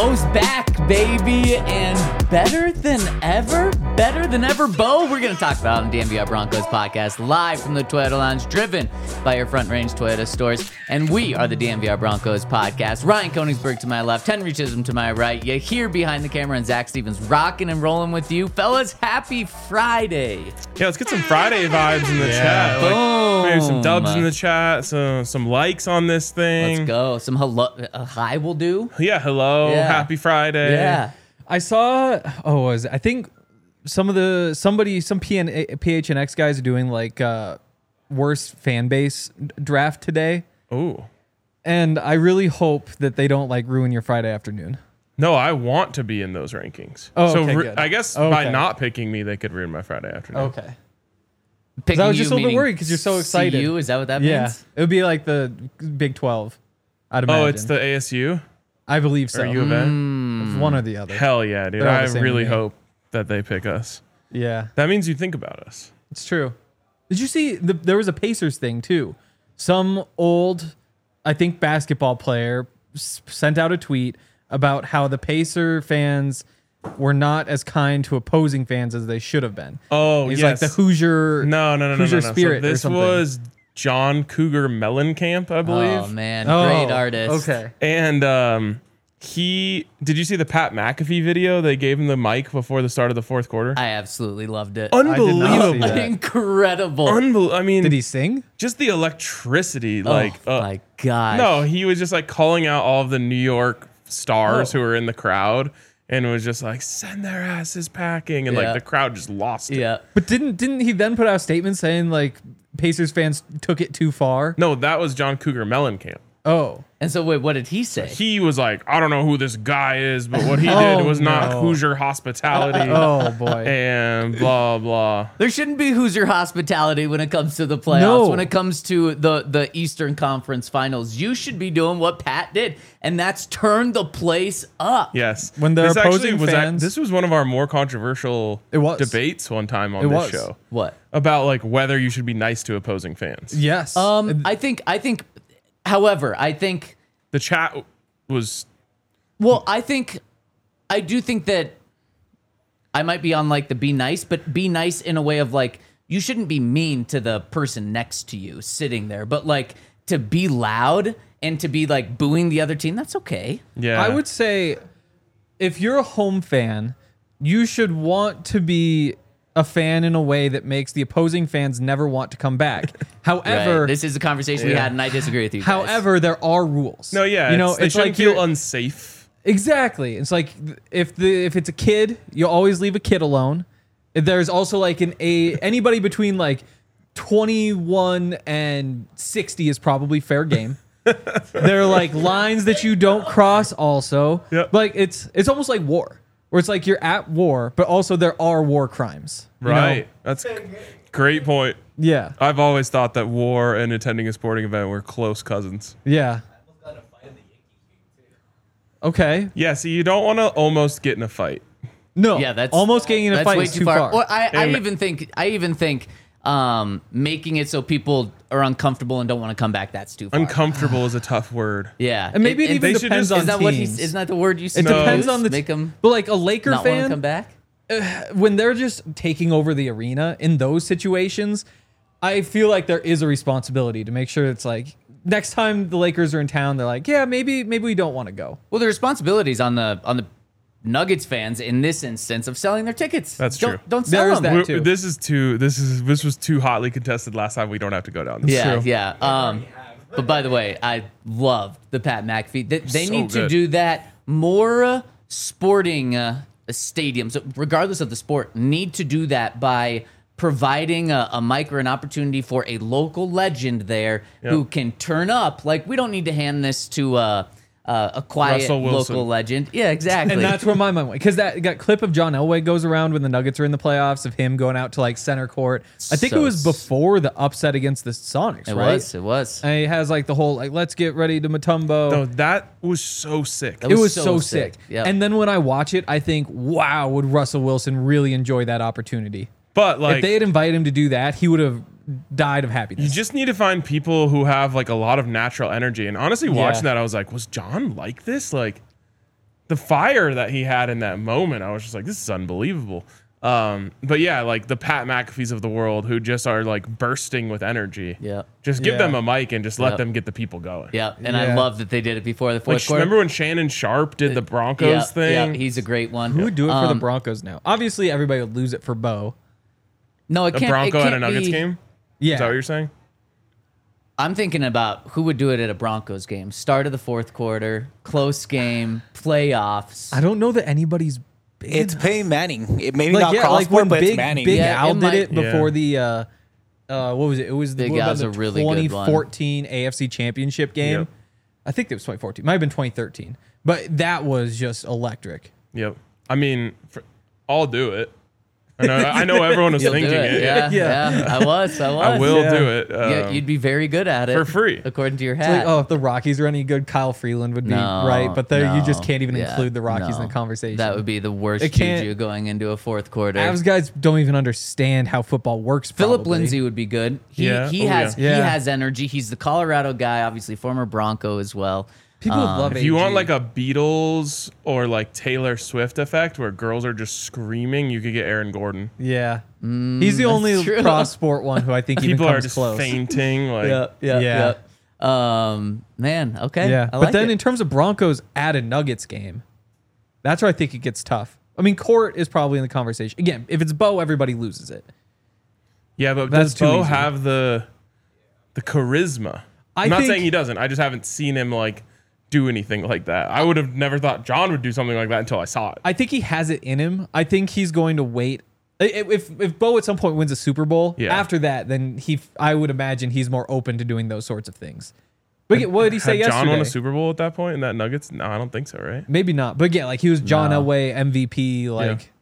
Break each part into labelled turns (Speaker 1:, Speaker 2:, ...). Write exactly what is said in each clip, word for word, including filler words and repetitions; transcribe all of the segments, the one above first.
Speaker 1: Bo's back, baby, and better than ever, better than ever, Bo. We're going to talk about on the D M V R Broncos podcast, live from the Toyota Lounge, driven by your Front Range Toyota stores. And we are the D M V R Broncos podcast. Ryan Koenigsberg to my left, Henry Chisholm to my right. You here behind the camera, and Zach Stevens rocking and rolling with you. Fellas, happy Friday.
Speaker 2: Yeah, let's get some Friday vibes in the
Speaker 1: Yeah.
Speaker 2: chat. Like,
Speaker 1: Boom.
Speaker 2: maybe some dubs in the chat, some, some likes on this thing.
Speaker 1: Let's go. Some hello, a hi will do.
Speaker 2: Yeah, hello.
Speaker 1: Yeah.
Speaker 2: Happy Friday.
Speaker 1: Yeah.
Speaker 3: I saw. Oh, was it? I think some of the somebody some P N, P H N X guys are doing like uh, worst fan base draft today,
Speaker 2: Ooh.
Speaker 3: and I really hope that they don't like ruin your Friday afternoon.
Speaker 2: No, I want to be in those rankings.
Speaker 3: Oh,
Speaker 2: so
Speaker 3: okay,
Speaker 2: re-
Speaker 3: good.
Speaker 2: I guess by
Speaker 3: Okay.
Speaker 2: not picking me, they could ruin my Friday afternoon.
Speaker 3: Okay.
Speaker 1: Picking
Speaker 3: I was
Speaker 1: you
Speaker 3: just a little bit
Speaker 1: meaning
Speaker 3: worried 'cause you're so excited.
Speaker 1: C U, is that what that
Speaker 3: Yeah,
Speaker 1: means?
Speaker 3: it would be like the Big twelve. I'd imagine.
Speaker 2: Oh, it's the A S U
Speaker 3: I believe so.
Speaker 2: or U of A?
Speaker 1: Mm.
Speaker 3: One or the other.
Speaker 2: Hell yeah, dude.
Speaker 3: They're all
Speaker 2: I
Speaker 3: the same
Speaker 2: really
Speaker 3: to me.
Speaker 2: hope that they pick us.
Speaker 3: Yeah,
Speaker 2: That means you think about us.
Speaker 3: it's true. Did you see the, there was a Pacers thing too? Some old, I think, basketball player s- sent out a tweet about how the Pacer fans were not as kind to opposing fans as they should have been.
Speaker 2: Oh,
Speaker 3: He's
Speaker 2: yes.
Speaker 3: like the Hoosier.
Speaker 2: No, no, no, no,
Speaker 3: Hoosier
Speaker 2: no, no.
Speaker 3: spirit
Speaker 2: So
Speaker 3: or
Speaker 2: this
Speaker 3: something.
Speaker 2: was John Cougar Mellencamp, I believe.
Speaker 1: Oh, man.
Speaker 3: Oh,
Speaker 1: Great artist.
Speaker 3: Okay.
Speaker 2: And um, he did you see the Pat McAfee video? They gave him the mic before the start of the fourth quarter.
Speaker 1: I absolutely loved it.
Speaker 2: Unbelievable.
Speaker 3: see that.
Speaker 1: Incredible.
Speaker 2: Unbel- I mean,
Speaker 3: Did he sing?
Speaker 2: just the electricity, like,
Speaker 1: oh,
Speaker 2: uh,
Speaker 1: my gosh.
Speaker 2: no, he was just like calling out all of the New York stars
Speaker 3: Oh.
Speaker 2: who were in the crowd, and was just like, send their asses packing, and
Speaker 1: Yeah.
Speaker 2: like the crowd just lost it.
Speaker 1: Yeah.
Speaker 3: But didn't didn't he then put out a statement saying like Pacers fans took it too far?
Speaker 2: No, that was John Cougar Mellencamp.
Speaker 3: Oh.
Speaker 1: And so, wait, what did he say?
Speaker 2: He was like, I don't know who this guy is, but what he did
Speaker 3: Oh,
Speaker 2: was not
Speaker 3: no.
Speaker 2: Hoosier hospitality.
Speaker 3: Oh boy.
Speaker 2: And blah blah.
Speaker 1: There shouldn't be Hoosier hospitality when it comes to the playoffs.
Speaker 3: No.
Speaker 1: When it comes to the, the Eastern Conference Finals, you should be doing what Pat did, and that's turn the place up.
Speaker 2: Yes.
Speaker 3: When they're
Speaker 2: This actually
Speaker 3: opposing
Speaker 2: was that-
Speaker 3: fans-
Speaker 2: this was one of our more controversial
Speaker 3: It was.
Speaker 2: debates one time on
Speaker 3: It
Speaker 2: this
Speaker 3: was.
Speaker 2: show
Speaker 1: What?
Speaker 2: about like whether you should be nice to opposing fans.
Speaker 3: Yes.
Speaker 1: Um, I think, I think, however, I think,
Speaker 2: The chat was
Speaker 1: well, I think, I do think that I might be on like the be nice, but be nice in a way of like, you shouldn't be mean to the person next to you sitting there, but like to be loud and to be like booing the other team, that's okay.
Speaker 2: yeah.
Speaker 3: I would say if you're a home fan, you should want to be a fan in a way that makes the opposing fans never want to come back. However,
Speaker 1: Right. This is a conversation we
Speaker 2: Yeah.
Speaker 1: had, and I disagree with you guys.
Speaker 3: however, there are rules.
Speaker 2: No, yeah.
Speaker 3: you know,
Speaker 2: it's, they
Speaker 3: it's
Speaker 2: shouldn't
Speaker 3: like
Speaker 2: feel
Speaker 3: you're-
Speaker 2: unsafe.
Speaker 3: exactly. It's like if the if it's a kid, you always leave a kid alone. There's also like an a anybody between like twenty-one and sixty is probably fair game. There are like lines that you don't cross also.
Speaker 2: Yep.
Speaker 3: Like it's it's almost like war. Where it's like you're at war, but also there are war crimes. you know?
Speaker 2: Right. That's great point.
Speaker 3: Yeah.
Speaker 2: I've always thought that war and attending a sporting event were close cousins.
Speaker 3: Yeah. Okay.
Speaker 2: Yeah, see, you don't want to almost get in a fight.
Speaker 3: No.
Speaker 1: Yeah, that's
Speaker 3: almost getting in a
Speaker 1: that's
Speaker 3: fight
Speaker 1: way
Speaker 3: is
Speaker 1: too
Speaker 3: too
Speaker 1: far.
Speaker 3: far.
Speaker 1: Or I, I
Speaker 2: And-
Speaker 1: even think I even think um, making it so people are uncomfortable and don't want to come back. That's too far.
Speaker 2: Uncomfortable is a tough word.
Speaker 1: yeah,
Speaker 3: And maybe it, even
Speaker 2: they should
Speaker 3: depends
Speaker 2: just-
Speaker 3: on
Speaker 1: is that what
Speaker 3: teams.
Speaker 1: he's? Isn't that the word you?
Speaker 3: It
Speaker 2: No.
Speaker 3: depends on the
Speaker 1: make them
Speaker 3: But like a Laker
Speaker 1: not want to
Speaker 3: fan,
Speaker 1: come back.
Speaker 3: when they're just taking over the arena in those situations, I feel like there is a responsibility to make sure it's like next time the Lakers are in town, they're like, yeah, maybe maybe we don't want to go.
Speaker 1: Well, the responsibilities on the on the Nuggets fans in this instance of selling their tickets.
Speaker 2: That's
Speaker 1: don't,
Speaker 2: true.
Speaker 1: Don't sell
Speaker 3: There is
Speaker 1: them.
Speaker 3: that.
Speaker 2: We're-
Speaker 3: too.
Speaker 2: This is too. This is this was too hotly contested last time. We don't have to go down this.
Speaker 1: Yeah,
Speaker 3: true.
Speaker 1: yeah. Um, but by the way, I loved the Pat McAfee. They, they
Speaker 2: So
Speaker 1: need to
Speaker 2: good.
Speaker 1: do that more. Uh, sporting uh, stadiums, regardless of the sport, need to do that by providing a, a mic or an opportunity for a local legend there who
Speaker 2: Yep.
Speaker 1: can turn up. Like, we don't need to hand this to uh, uh, a quiet
Speaker 2: Russell Wilson.
Speaker 1: local legend. Yeah, exactly.
Speaker 3: And that's where my mind went. Because that, that clip of John Elway goes around when the Nuggets are in the playoffs of him going out to like center court. I think
Speaker 1: So
Speaker 3: it was before the upset against the Sonics,
Speaker 1: it
Speaker 3: right?
Speaker 1: was. It was.
Speaker 3: And he has like the whole like, let's get ready to Mutombo.
Speaker 2: No, that was so sick.
Speaker 1: That
Speaker 3: It
Speaker 1: was
Speaker 3: was
Speaker 1: so
Speaker 3: so,
Speaker 1: sick.
Speaker 3: sick.
Speaker 1: Yep.
Speaker 3: And then when I watch it, I think, wow, would Russell Wilson really enjoy that opportunity?
Speaker 2: But like,
Speaker 3: if they had invited him to do that, he would have died of
Speaker 2: you
Speaker 3: happiness.
Speaker 2: just need to find people who have like a lot of natural energy. And honestly, watching
Speaker 3: Yeah.
Speaker 2: that, I was like, was John like this? Like, the fire that he had in that moment, I was just like, this is unbelievable. Um, but yeah, like the Pat McAfees of the world who just are like bursting with energy.
Speaker 1: Yeah.
Speaker 2: Just give
Speaker 3: Yeah.
Speaker 2: them a mic and just let
Speaker 1: Yep.
Speaker 2: them get the people going.
Speaker 1: Yeah, and I
Speaker 3: Yeah.
Speaker 1: love that they did it before the
Speaker 2: Like,
Speaker 1: fourth quarter.
Speaker 2: remember when Shannon Sharp did the Broncos
Speaker 1: yeah,
Speaker 2: thing?
Speaker 1: Yeah, he's a great one.
Speaker 3: Who would do it for the
Speaker 1: Um,
Speaker 3: Broncos now? Obviously, everybody would lose it for Bo.
Speaker 1: No, it
Speaker 2: a
Speaker 1: can't.
Speaker 2: Bronco
Speaker 1: it
Speaker 2: at
Speaker 1: can't
Speaker 2: a Nuggets
Speaker 1: be,
Speaker 2: game?
Speaker 3: Yeah.
Speaker 2: Is that what you're saying?
Speaker 1: I'm thinking about who would do it at a Broncos game. Start of the fourth quarter, close game, playoffs.
Speaker 3: I don't know that anybody's big
Speaker 4: It's
Speaker 3: enough.
Speaker 4: Peyton Manning. It maybe
Speaker 3: like
Speaker 4: not
Speaker 3: yeah,
Speaker 4: cross
Speaker 3: like when
Speaker 4: but
Speaker 3: Big
Speaker 4: it's Manning.
Speaker 3: Big
Speaker 1: Yeah,
Speaker 3: Al
Speaker 1: it
Speaker 3: did
Speaker 1: might-
Speaker 3: it before
Speaker 2: Yeah.
Speaker 3: the uh, uh, what was it? It was the,
Speaker 1: Big
Speaker 3: what about
Speaker 1: Al's
Speaker 3: the
Speaker 1: a really good one.
Speaker 3: twenty fourteen A F C Championship game.
Speaker 2: Yep.
Speaker 3: I think it was twenty fourteen. Might have been twenty thirteen. But that was just electric.
Speaker 2: Yep. I mean, for, I'll do it. I know, I know everyone was
Speaker 1: You'll do
Speaker 2: thinking
Speaker 1: it.
Speaker 2: it.
Speaker 1: Yeah,
Speaker 3: Yeah.
Speaker 1: yeah, I was. I was.
Speaker 2: I will
Speaker 3: Yeah.
Speaker 2: do it.
Speaker 1: Yeah,
Speaker 2: Um,
Speaker 1: you'd be very good at it
Speaker 2: for free.
Speaker 1: according to your
Speaker 3: It's
Speaker 1: hat.
Speaker 3: like, oh, if the Rockies are any good, Kyle Freeland would be
Speaker 1: No,
Speaker 3: right. But there, you just
Speaker 1: no.
Speaker 3: can't even
Speaker 1: Yeah,
Speaker 3: include the Rockies
Speaker 1: no.
Speaker 3: in the conversation.
Speaker 1: That would be the worst
Speaker 3: It can't-
Speaker 1: juju going into a fourth quarter.
Speaker 3: Avs guys don't even understand how football works.
Speaker 1: Philip
Speaker 3: probably.
Speaker 1: Lindsay would be good. He
Speaker 2: Yeah.
Speaker 1: he
Speaker 2: Oh,
Speaker 1: has
Speaker 3: yeah.
Speaker 1: he
Speaker 3: Yeah.
Speaker 1: has energy. He's the Colorado guy, obviously former Bronco as well.
Speaker 3: People
Speaker 1: Um,
Speaker 3: love
Speaker 2: If you want
Speaker 3: A G.
Speaker 2: like a Beatles or like Taylor Swift effect where girls are just screaming, you could get Aaron Gordon.
Speaker 3: Yeah, he's the only
Speaker 1: true.
Speaker 3: cross sport one who I think even
Speaker 2: People are
Speaker 3: comes
Speaker 2: just
Speaker 3: close.
Speaker 2: fainting. Like,
Speaker 1: yeah, yeah,
Speaker 3: Yeah.
Speaker 1: yeah. Um, man, okay.
Speaker 3: Yeah,
Speaker 1: I
Speaker 3: but
Speaker 1: like
Speaker 3: then
Speaker 1: it.
Speaker 3: in terms of Broncos at a Nuggets game, that's where I think it gets tough. I mean, Court is probably in the conversation again. If it's Bo, everybody loses it.
Speaker 2: yeah, but
Speaker 3: That's
Speaker 2: does
Speaker 3: too
Speaker 2: Bo
Speaker 3: easy.
Speaker 2: have the the charisma?
Speaker 3: I
Speaker 2: I'm not
Speaker 3: think-
Speaker 2: saying he doesn't. I just haven't seen him like do anything like that. I would have never thought John would do something like that until I saw it.
Speaker 3: I think he has it in him. I think he's going to wait. I- If if Bo at some point wins a Super Bowl,
Speaker 2: Yeah.
Speaker 3: after that, then he I would imagine he's more open to doing those sorts of things. But again, what did he say
Speaker 2: Had
Speaker 3: yesterday?
Speaker 2: John won a Super Bowl at that point in that Nuggets? No, I don't think so, right?
Speaker 3: Maybe not. But again, like he was John
Speaker 1: No.
Speaker 3: Elway M V P. Like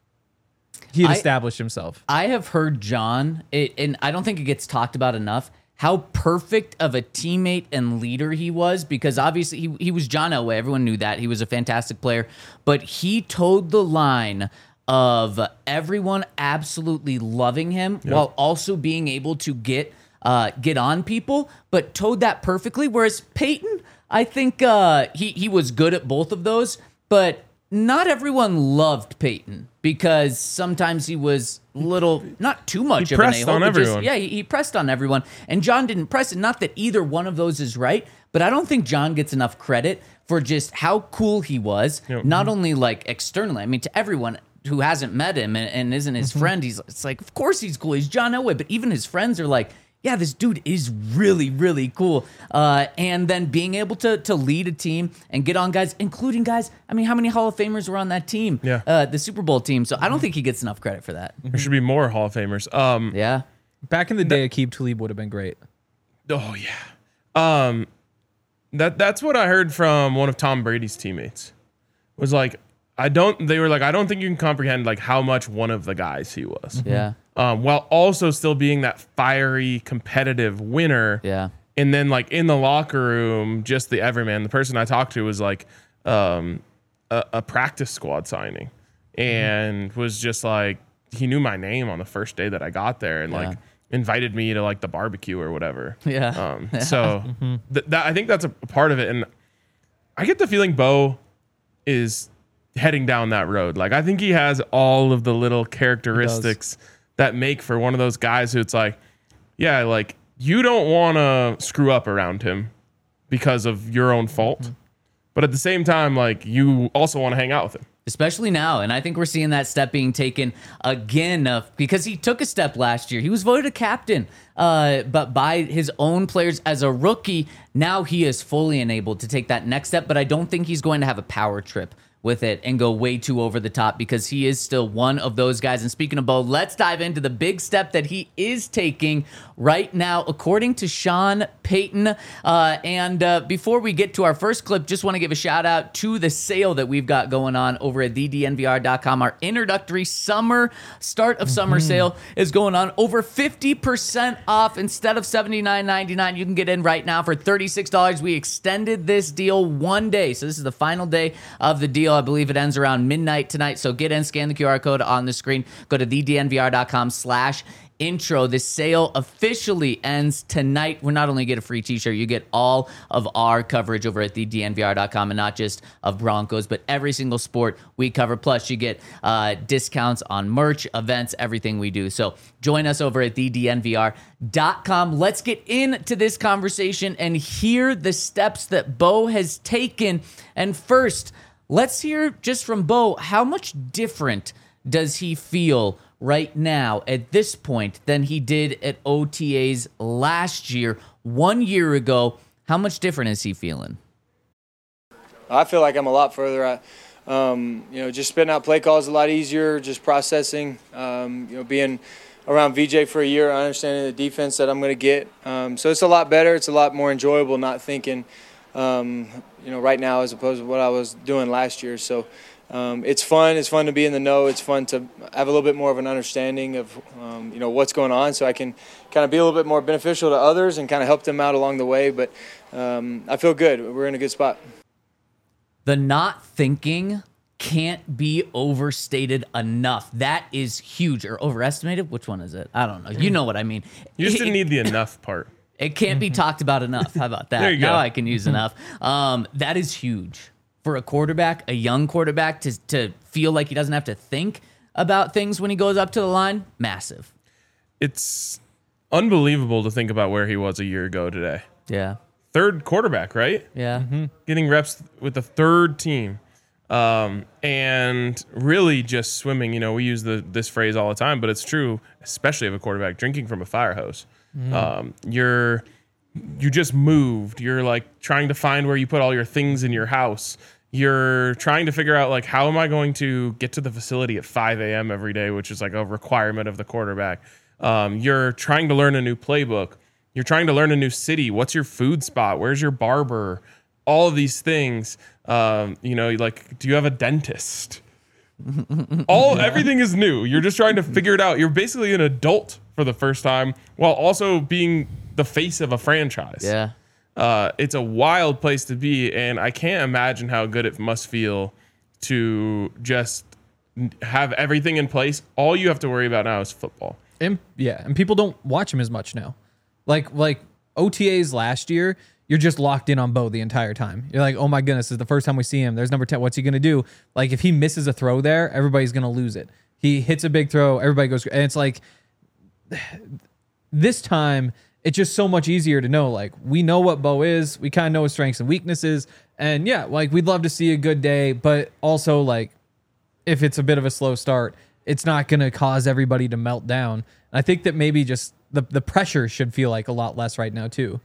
Speaker 3: he had
Speaker 1: I-
Speaker 3: established himself.
Speaker 1: I have heard John, it, and I don't think it gets talked about enough, how perfect of a teammate and leader he was, because obviously he, he was John Elway. Everyone knew that. He was a fantastic player. But he towed the line of everyone absolutely loving him while also being able to get uh, get on people, but towed that perfectly. Whereas Peyton, I think uh, he, he was good at both of those, but not everyone loved Peyton because sometimes he was a little, not too much
Speaker 2: He
Speaker 1: of an
Speaker 2: pressed
Speaker 1: a-hole,
Speaker 2: on
Speaker 1: but just-
Speaker 2: everyone.
Speaker 1: yeah, he, he pressed on everyone. And John didn't press it. Not that either one of those is right, but I don't think John gets enough credit for just how cool he was,
Speaker 2: Yep.
Speaker 1: not only like externally, I mean, to everyone who hasn't met him and, and isn't his
Speaker 2: Mm-hmm.
Speaker 1: friend, he's it's like, of course he's cool. He's John Elway. But even his friends are like, yeah, this dude is really, really cool. Uh, and then being able to to lead a team and get on guys, including guys. I mean, how many Hall of Famers were on that team?
Speaker 2: Yeah.
Speaker 1: Uh, the Super Bowl team. So I don't think he gets enough credit for that.
Speaker 2: There should be more Hall of Famers. Um,
Speaker 1: Yeah.
Speaker 3: Back in the day, Aqib Talib would have been great.
Speaker 2: Oh yeah. Um, that that's what I heard from one of Tom Brady's teammates. Was like, I don't. They were like, I don't think you can comprehend like how much one of the guys he was.
Speaker 1: Yeah.
Speaker 2: Um, while also still being that fiery, competitive winner.
Speaker 1: Yeah.
Speaker 2: And then like in the locker room, just the everyman. The person I talked to was like um, a, a practice squad signing, and was just like he knew my name on the first day that I got there, and
Speaker 1: Yeah.
Speaker 2: like invited me to like the barbecue or whatever.
Speaker 1: Yeah.
Speaker 2: Um, so th- that I think that's a part of it, and I get the feeling Bo is heading down that road. Like I think he has all of the little characteristics that make for one of those guys who it's like, yeah, like you don't want to screw up around him because of your own fault,
Speaker 1: Mm-hmm.
Speaker 2: but at the same time, like you also want to hang out with him.
Speaker 1: Especially now. And I think we're seeing that step being taken again uh, because he took a step last year. He was voted a captain, uh, but by his own players as a rookie. Now he is fully enabled to take that next step, but I don't think he's going to have a power trip with it and go way too over the top because he is still one of those guys. And speaking of Bo, let's dive into the big step that he is taking right now, according to Sean Payton. Uh, and uh, before we get to our first clip, just want to give a shout out to the sale that we've got going on over at the d n v r dot com. Our introductory summer, start of summer sale is going on. Over fifty percent off instead of seventy-nine ninety-nine. You can get in right now for thirty-six dollars. We extended this deal one day. So this is the final day of the deal. deal. I believe it ends around midnight tonight. So get in, scan the Q R code on the screen. Go to the d n v r dot com slash intro. This sale officially ends tonight. We're not only get a free t-shirt, you get all of our coverage over at the d n v r dot com, and not just of Broncos, but every single sport we cover. Plus, you get uh, discounts on merch, events, everything we do. So join us over at the d n v r dot com. Let's get into this conversation and hear the steps that Bo has taken. And first, let's hear just from Bo, how much different does he feel right now at this point than he did at O T As last year, one year ago? How much different is he feeling?
Speaker 4: I feel like I'm a lot further. I, um, you know, just spitting out play calls a lot easier, just processing. Um, you know, being around V J for a year, understanding the defense that I'm going to get. Um, so it's a lot better. It's a lot more enjoyable not thinking, um, you know, right now as opposed to what I was doing last year. So um, it's fun. It's fun to be in the know. It's fun to have a little bit more of an understanding of, um, you know, what's going on, so I can kind of be a little bit more beneficial to others and kind of help them out along the way. But um, I feel good. We're in a good spot.
Speaker 1: The not thinking can't be overstated enough. That is huge. Or overestimated? Which one is it? I don't know. You know what I mean.
Speaker 2: You just
Speaker 1: It-
Speaker 2: didn't need the enough part.
Speaker 1: It can't be talked about enough. How about that?
Speaker 2: There you
Speaker 1: now
Speaker 2: go.
Speaker 1: I can use enough. Um, that is huge for a quarterback, a young quarterback, to to feel like he doesn't have to think about things when he goes up to the line. Massive.
Speaker 2: It's unbelievable to think about where he was a year ago today.
Speaker 1: Yeah.
Speaker 2: Third quarterback, right?
Speaker 1: Yeah.
Speaker 2: Getting reps with the third team. Um, and really just swimming. You know, we use the this phrase all the time, but it's true, especially of a quarterback, drinking from a fire hose. Um, you're you just moved. You're like trying to find where you put all your things in your house. You're trying to figure out, like, how am I going to get to the facility at five a.m. every day, which is like a requirement of the quarterback. Um, you're trying to learn a new playbook. You're trying to learn a new city. What's your food spot? Where's your barber? All of these things. Um, you know, like, do you have a dentist? All yeah. Everything is new. You're just trying to figure it out. You're basically an adult for the first time, while also being the face of a franchise.
Speaker 1: Yeah.
Speaker 2: Uh, it's a wild place to be, and I can't imagine how good it must feel to just have everything in place. All you have to worry about now is football.
Speaker 3: And yeah, and people don't watch him as much now. Like like O T As last year, you're just locked in on Bo the entire time. You're like, oh my goodness, this is the first time we see him. There's number ten. What's he gonna do? Like, if he misses a throw there, everybody's gonna lose it. He hits a big throw, everybody goes, and it's like this time it's just so much easier to know. Like, we know what Bo is. We kind of know his strengths and weaknesses. And yeah, like, we'd love to see a good day, but also, like, if it's a bit of a slow start, it's not going to cause everybody to melt down. I think that maybe just the, the pressure should feel like a lot less right now too.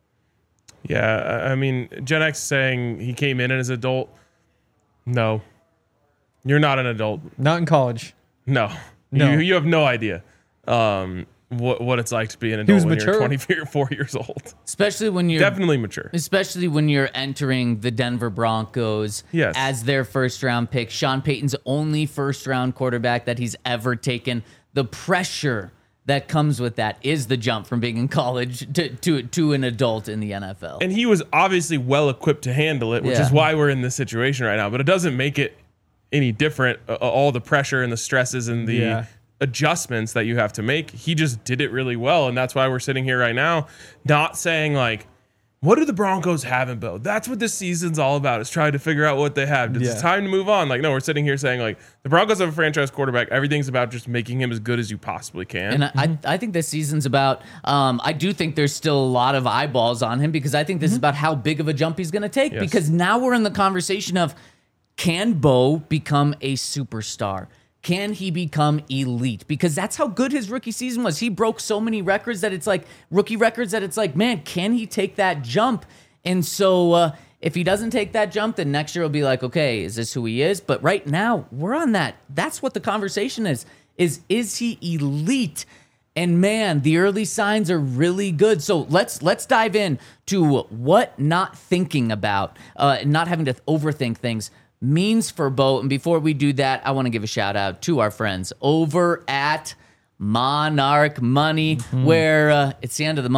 Speaker 2: Yeah, I mean, Gen X saying he came in as an adult. No, you're not an adult.
Speaker 3: Not in college.
Speaker 2: No,
Speaker 3: No.
Speaker 2: You, you have no idea um, what what it's like to be an
Speaker 3: He was
Speaker 2: adult when
Speaker 3: mature.
Speaker 2: you're twenty-four years old.
Speaker 1: Especially when you're
Speaker 2: Definitely mature.
Speaker 1: Especially when you're entering the Denver Broncos
Speaker 2: Yes.
Speaker 1: as their first round pick. Sean Payton's only first round quarterback that he's ever taken. The pressure that comes with that is the jump from being in college to to, to an adult in the N F L.
Speaker 2: And he was obviously well equipped to handle it, which
Speaker 1: Yeah.
Speaker 2: is why we're in this situation right now. But it doesn't make it any different. Uh, all the pressure and the stresses and the
Speaker 3: Yeah.
Speaker 2: adjustments that you have to make, he just did it really well. And that's why we're sitting here right now, not saying like, what do the Broncos have in Bo? That's what this season's all about, is trying to figure out what they have. It's
Speaker 3: Yeah.
Speaker 2: time to move on. Like, no, we're sitting here saying like, the Broncos have a franchise quarterback. Everything's about just making him as good as you possibly can.
Speaker 1: And I, I, I think this season's about, um, I do think there's still a lot of eyeballs on him, because I think this is about how big of a jump he's going to take.
Speaker 2: Yes.
Speaker 1: Because now we're in the conversation of, can Bo become a superstar? Can he become elite? Because that's how good his rookie season was. He broke so many records that it's like, rookie records that it's like, man, can he take that jump? And so uh, if he doesn't take that jump, then next year will be like, okay, is this who he is? But right now, we're on that. That's what the conversation is, is, is he elite? And man, the early signs are really good. So let's let's dive in to what not thinking about, uh, not having to overthink things means for Bo. And before we do that, I want to give a shout out to our friends over at Monarch Money, where uh, it's the end of the month.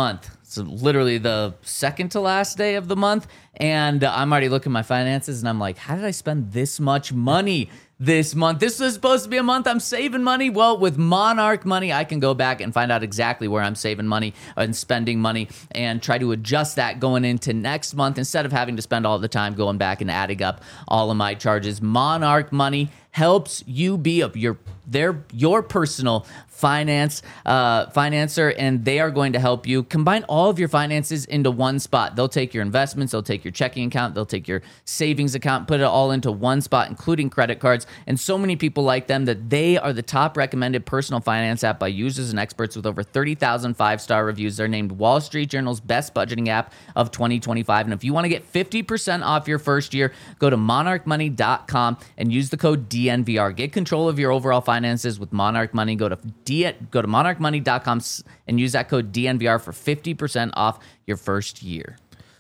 Speaker 1: It's literally the second to last day of the month, and I'm already looking at my finances, and I'm like, how did I spend this much money this month? This was supposed to be a month I'm saving money. Well, with Monarch Money, I can go back and find out exactly where I'm saving money and spending money and try to adjust that going into next month instead of having to spend all the time going back and adding up all of my charges. Monarch Money helps you be up your their your personal finance uh, financer, and they are going to help you combine all of your finances into one spot. They'll take your investments, they'll take your checking account, they'll take your savings account, put it all into one spot, including credit cards. And so many people like them that they are the top recommended personal finance app by users and experts with over thirty thousand five-star reviews. They're named Wall Street Journal's best budgeting app of twenty twenty-five. And if you want to get fifty percent off your first year, go to monarch money dot com and use the code D N V R. Get control of your overall finances with Monarch Money. Go to D- go to monarch money dot com and use that code D N V R for fifty percent off your first year.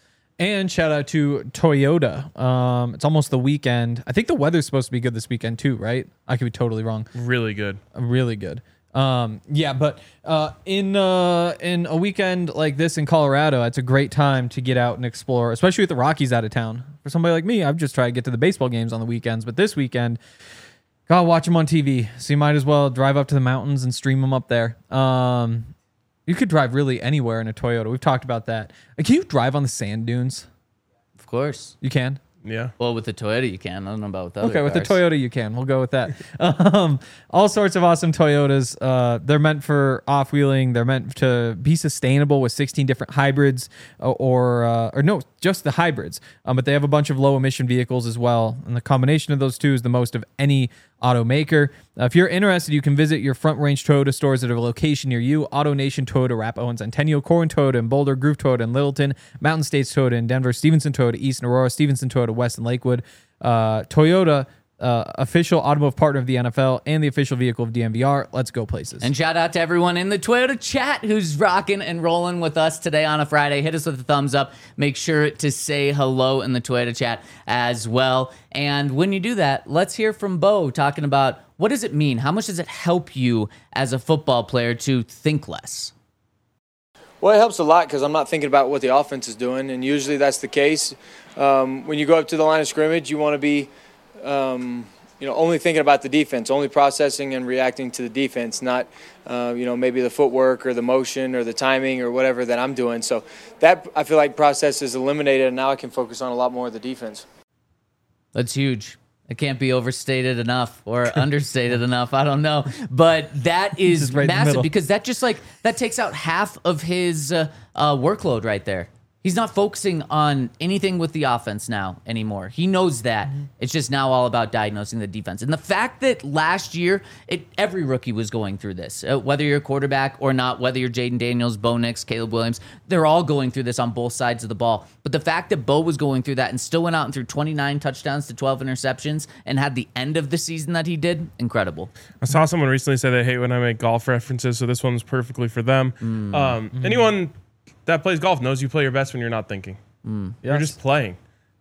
Speaker 3: And shout out to Toyota. Um, it's almost the weekend. I think the weather's supposed to be good this weekend too, right? I could be totally wrong.
Speaker 2: Really good.
Speaker 3: Really good. Um, yeah, but uh, in uh, in a weekend like this in Colorado, it's a great time to get out and explore, especially with the Rockies out of town. For somebody like me, I've just tried to get to the baseball games on the weekends, but this weekend, gotta watch them on T V. So you might as well drive up to the mountains and stream them up there. Um, you could drive really anywhere in a Toyota. We've talked about that. Uh, Can you drive on the sand dunes?
Speaker 1: Of course.
Speaker 3: You can?
Speaker 2: Yeah.
Speaker 1: Well, with the Toyota, you can. I don't know about with the
Speaker 3: Okay,
Speaker 1: other
Speaker 3: with the
Speaker 1: cars.
Speaker 3: Toyota, you can. We'll go with that. um, all sorts of awesome Toyotas. Uh, they're meant for off-wheeling. They're meant to be sustainable with sixteen different hybrids, or or, uh, or no, just the hybrids. Um, but they have a bunch of low-emission vehicles as well, and the combination of those two is the most of any automaker. Uh, if you're interested, you can visit your Front Range Toyota stores at a location near you. AutoNation Toyota, Arapahoe and Centennial, Corwin Toyota in Boulder, Groove Toyota in Littleton, Mountain States Toyota in Denver, Stevenson Toyota East and Aurora, Stevenson Toyota West and Lakewood. Uh, Toyota, uh, official automotive partner of the N F L and the official vehicle of D N V R. Let's go places.
Speaker 1: And shout out to everyone in the Toyota chat who's rocking and rolling with us today on a Friday. Hit us with a thumbs up. Make sure to say hello in the Toyota chat as well. And when you do that, let's hear from Bo talking about what does it mean? How much does it help you as a football player to think less?
Speaker 4: Well, it helps a lot because I'm not thinking about what the offense is doing, and usually that's the case. Um, when you go up to the line of scrimmage, you want to be, um, you know, only thinking about the defense, only processing and reacting to the defense, not, uh, you know, maybe the footwork or the motion or the timing or whatever that I'm doing. So that, I feel like, process is eliminated, and now I can focus on a lot more of the defense.
Speaker 1: That's huge. It can't be overstated enough or understated enough. I don't know. But that is
Speaker 3: right
Speaker 1: massive because that just like that takes out half of his uh, uh, workload right there. He's not focusing on anything with the offense now anymore. He knows that. Mm-hmm. It's just now all about diagnosing the defense. And the fact that last year, it, every rookie was going through this, uh, whether you're a quarterback or not, whether you're Jaden Daniels, Bo Nix, Caleb Williams, they're all going through this on both sides of the ball. But the fact that Bo was going through that and still went out and threw twenty-nine touchdowns to twelve interceptions and had the end of the season that he did, incredible.
Speaker 2: I saw someone recently say they hate when I make golf references, so this one's perfectly for them. Mm. Um, mm-hmm. Anyone that plays golf knows you play your best when you're not thinking. Mm, yes. You're just playing.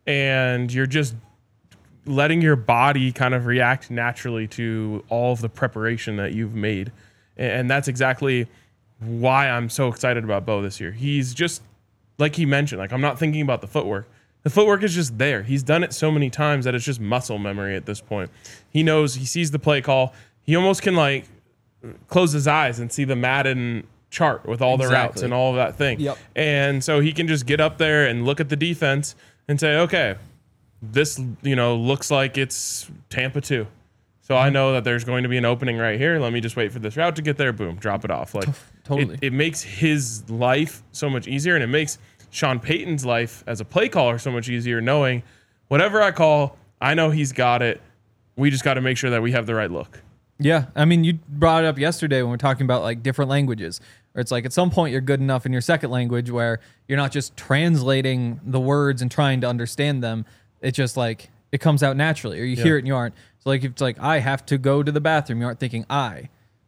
Speaker 2: And you're just letting your body kind of react naturally to all of the preparation that you've made. And that's exactly why I'm so excited about Bo this year. He's just, like he mentioned, like I'm not thinking about the footwork. The footwork is just there. He's done it so many times that it's just muscle memory at this point. He knows, he sees the play call. He almost can like close his eyes and see the Madden chart with all the exactly. routes and all of that thing.
Speaker 3: Yep.
Speaker 2: And so he can just get up there and look at the defense and say, okay, this, you know, looks like it's Tampa two. So I know that there's going to be an opening right here. Let me just wait for this route to get there. Boom, drop it off. Like
Speaker 3: totally.
Speaker 2: It, it makes his life so much easier, and it makes Sean Payton's life as a play caller so much easier, knowing whatever I call, I know he's got it. We just got to make sure that we have the right look.
Speaker 3: Yeah, I mean, you brought it up yesterday when we we're talking about like different languages. Or it's like at some point you're good enough in your second language where you're not just translating the words and trying to understand them. It's just like it comes out naturally, or you yeah. hear it and you aren't. So like if it's like I have to go to the bathroom, you aren't thinking I,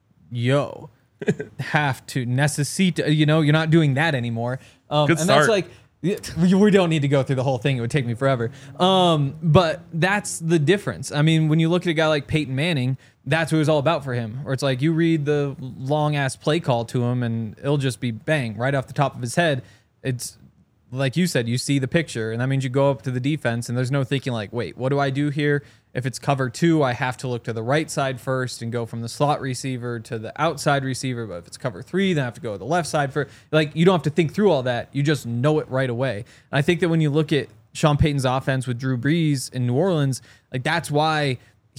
Speaker 3: yo, have to necessita. You know, you're not doing that anymore. Um,
Speaker 2: good
Speaker 3: and
Speaker 2: start.
Speaker 3: That's like. We don't need to go through the whole thing. It would take me forever. Um, but that's the difference. I mean, when you look at a guy like Peyton Manning, that's what it was all about for him. Or it's like you read the long ass play call to him and it'll just be bang right off the top of his head. It's like you said, you see the picture and that means you go up to the defense and there's no thinking like, wait, what do I do here? If it's cover two, I have to look to the right side first and go from the slot receiver to the outside receiver. But if it's cover three, then I have to go to the left side for like, you don't have to think through all that. You just know it right away. And I think that when you look at Sean Payton's offense with Drew Brees in New Orleans, like that's why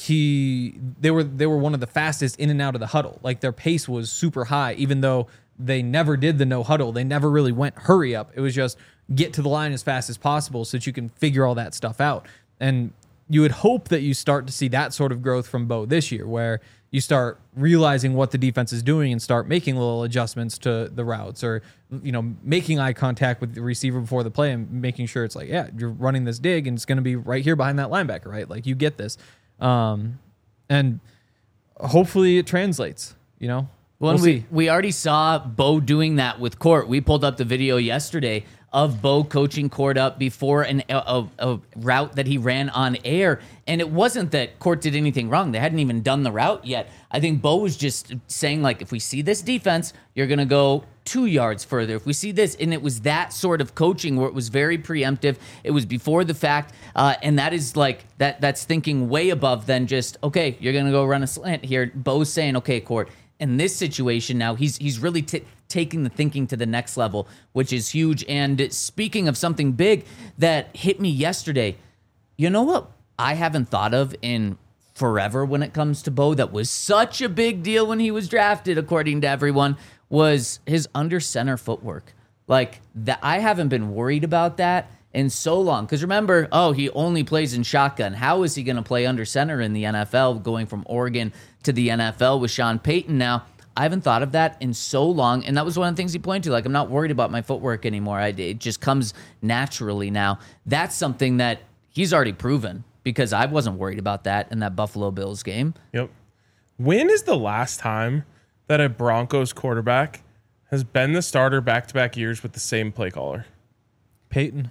Speaker 3: he they were they were one of the fastest in and out of the huddle. Like their pace was super high, even though they never did the no huddle. They never really went hurry up. It was just get to the line as fast as possible so that you can figure all that stuff out. And you would hope that you start to see that sort of growth from Bo this year, where you start realizing what the defense is doing and start making little adjustments to the routes, or, you know, making eye contact with the receiver before the play and making sure it's like, yeah, you're running this dig and it's going to be right here behind that linebacker, right? Like you get this. Um, and hopefully it translates, you know?
Speaker 1: Well,
Speaker 3: We'll
Speaker 1: we,
Speaker 3: see.
Speaker 1: we already saw Bo doing that with Court. We pulled up the video yesterday of Bo coaching Court up before an, a, a route that he ran on air. And it wasn't that Court did anything wrong. They hadn't even done the route yet. I think Bo was just saying, like, if we see this defense, you're going to go two yards further. If we see this, and it was that sort of coaching where it was very preemptive. It was before the fact. Uh, and that is like, that that's thinking way above than just, okay, you're going to go run a slant here. Bo's saying, okay, Court, in this situation now, he's he's really t- taking the thinking to the next level, which is huge. And speaking of something big that hit me yesterday, you know what I haven't thought of in forever when it comes to Bo that was such a big deal when he was drafted, according to everyone, was his under center footwork. Like, that, I haven't been worried about that in so long. Because remember, oh, he only plays in shotgun. How is he going to play under center in the N F L, going from Oregon to the N F L with Sean Payton now? I haven't thought of that in so long, and that was one of the things he pointed to. Like, I'm not worried about my footwork anymore. I, it just comes naturally now. That's something that he's already proven, because I wasn't worried about that in that Buffalo Bills game.
Speaker 2: Yep. When is the last time that a Broncos quarterback has been the starter back-to-back years with the same play caller?
Speaker 3: Peyton.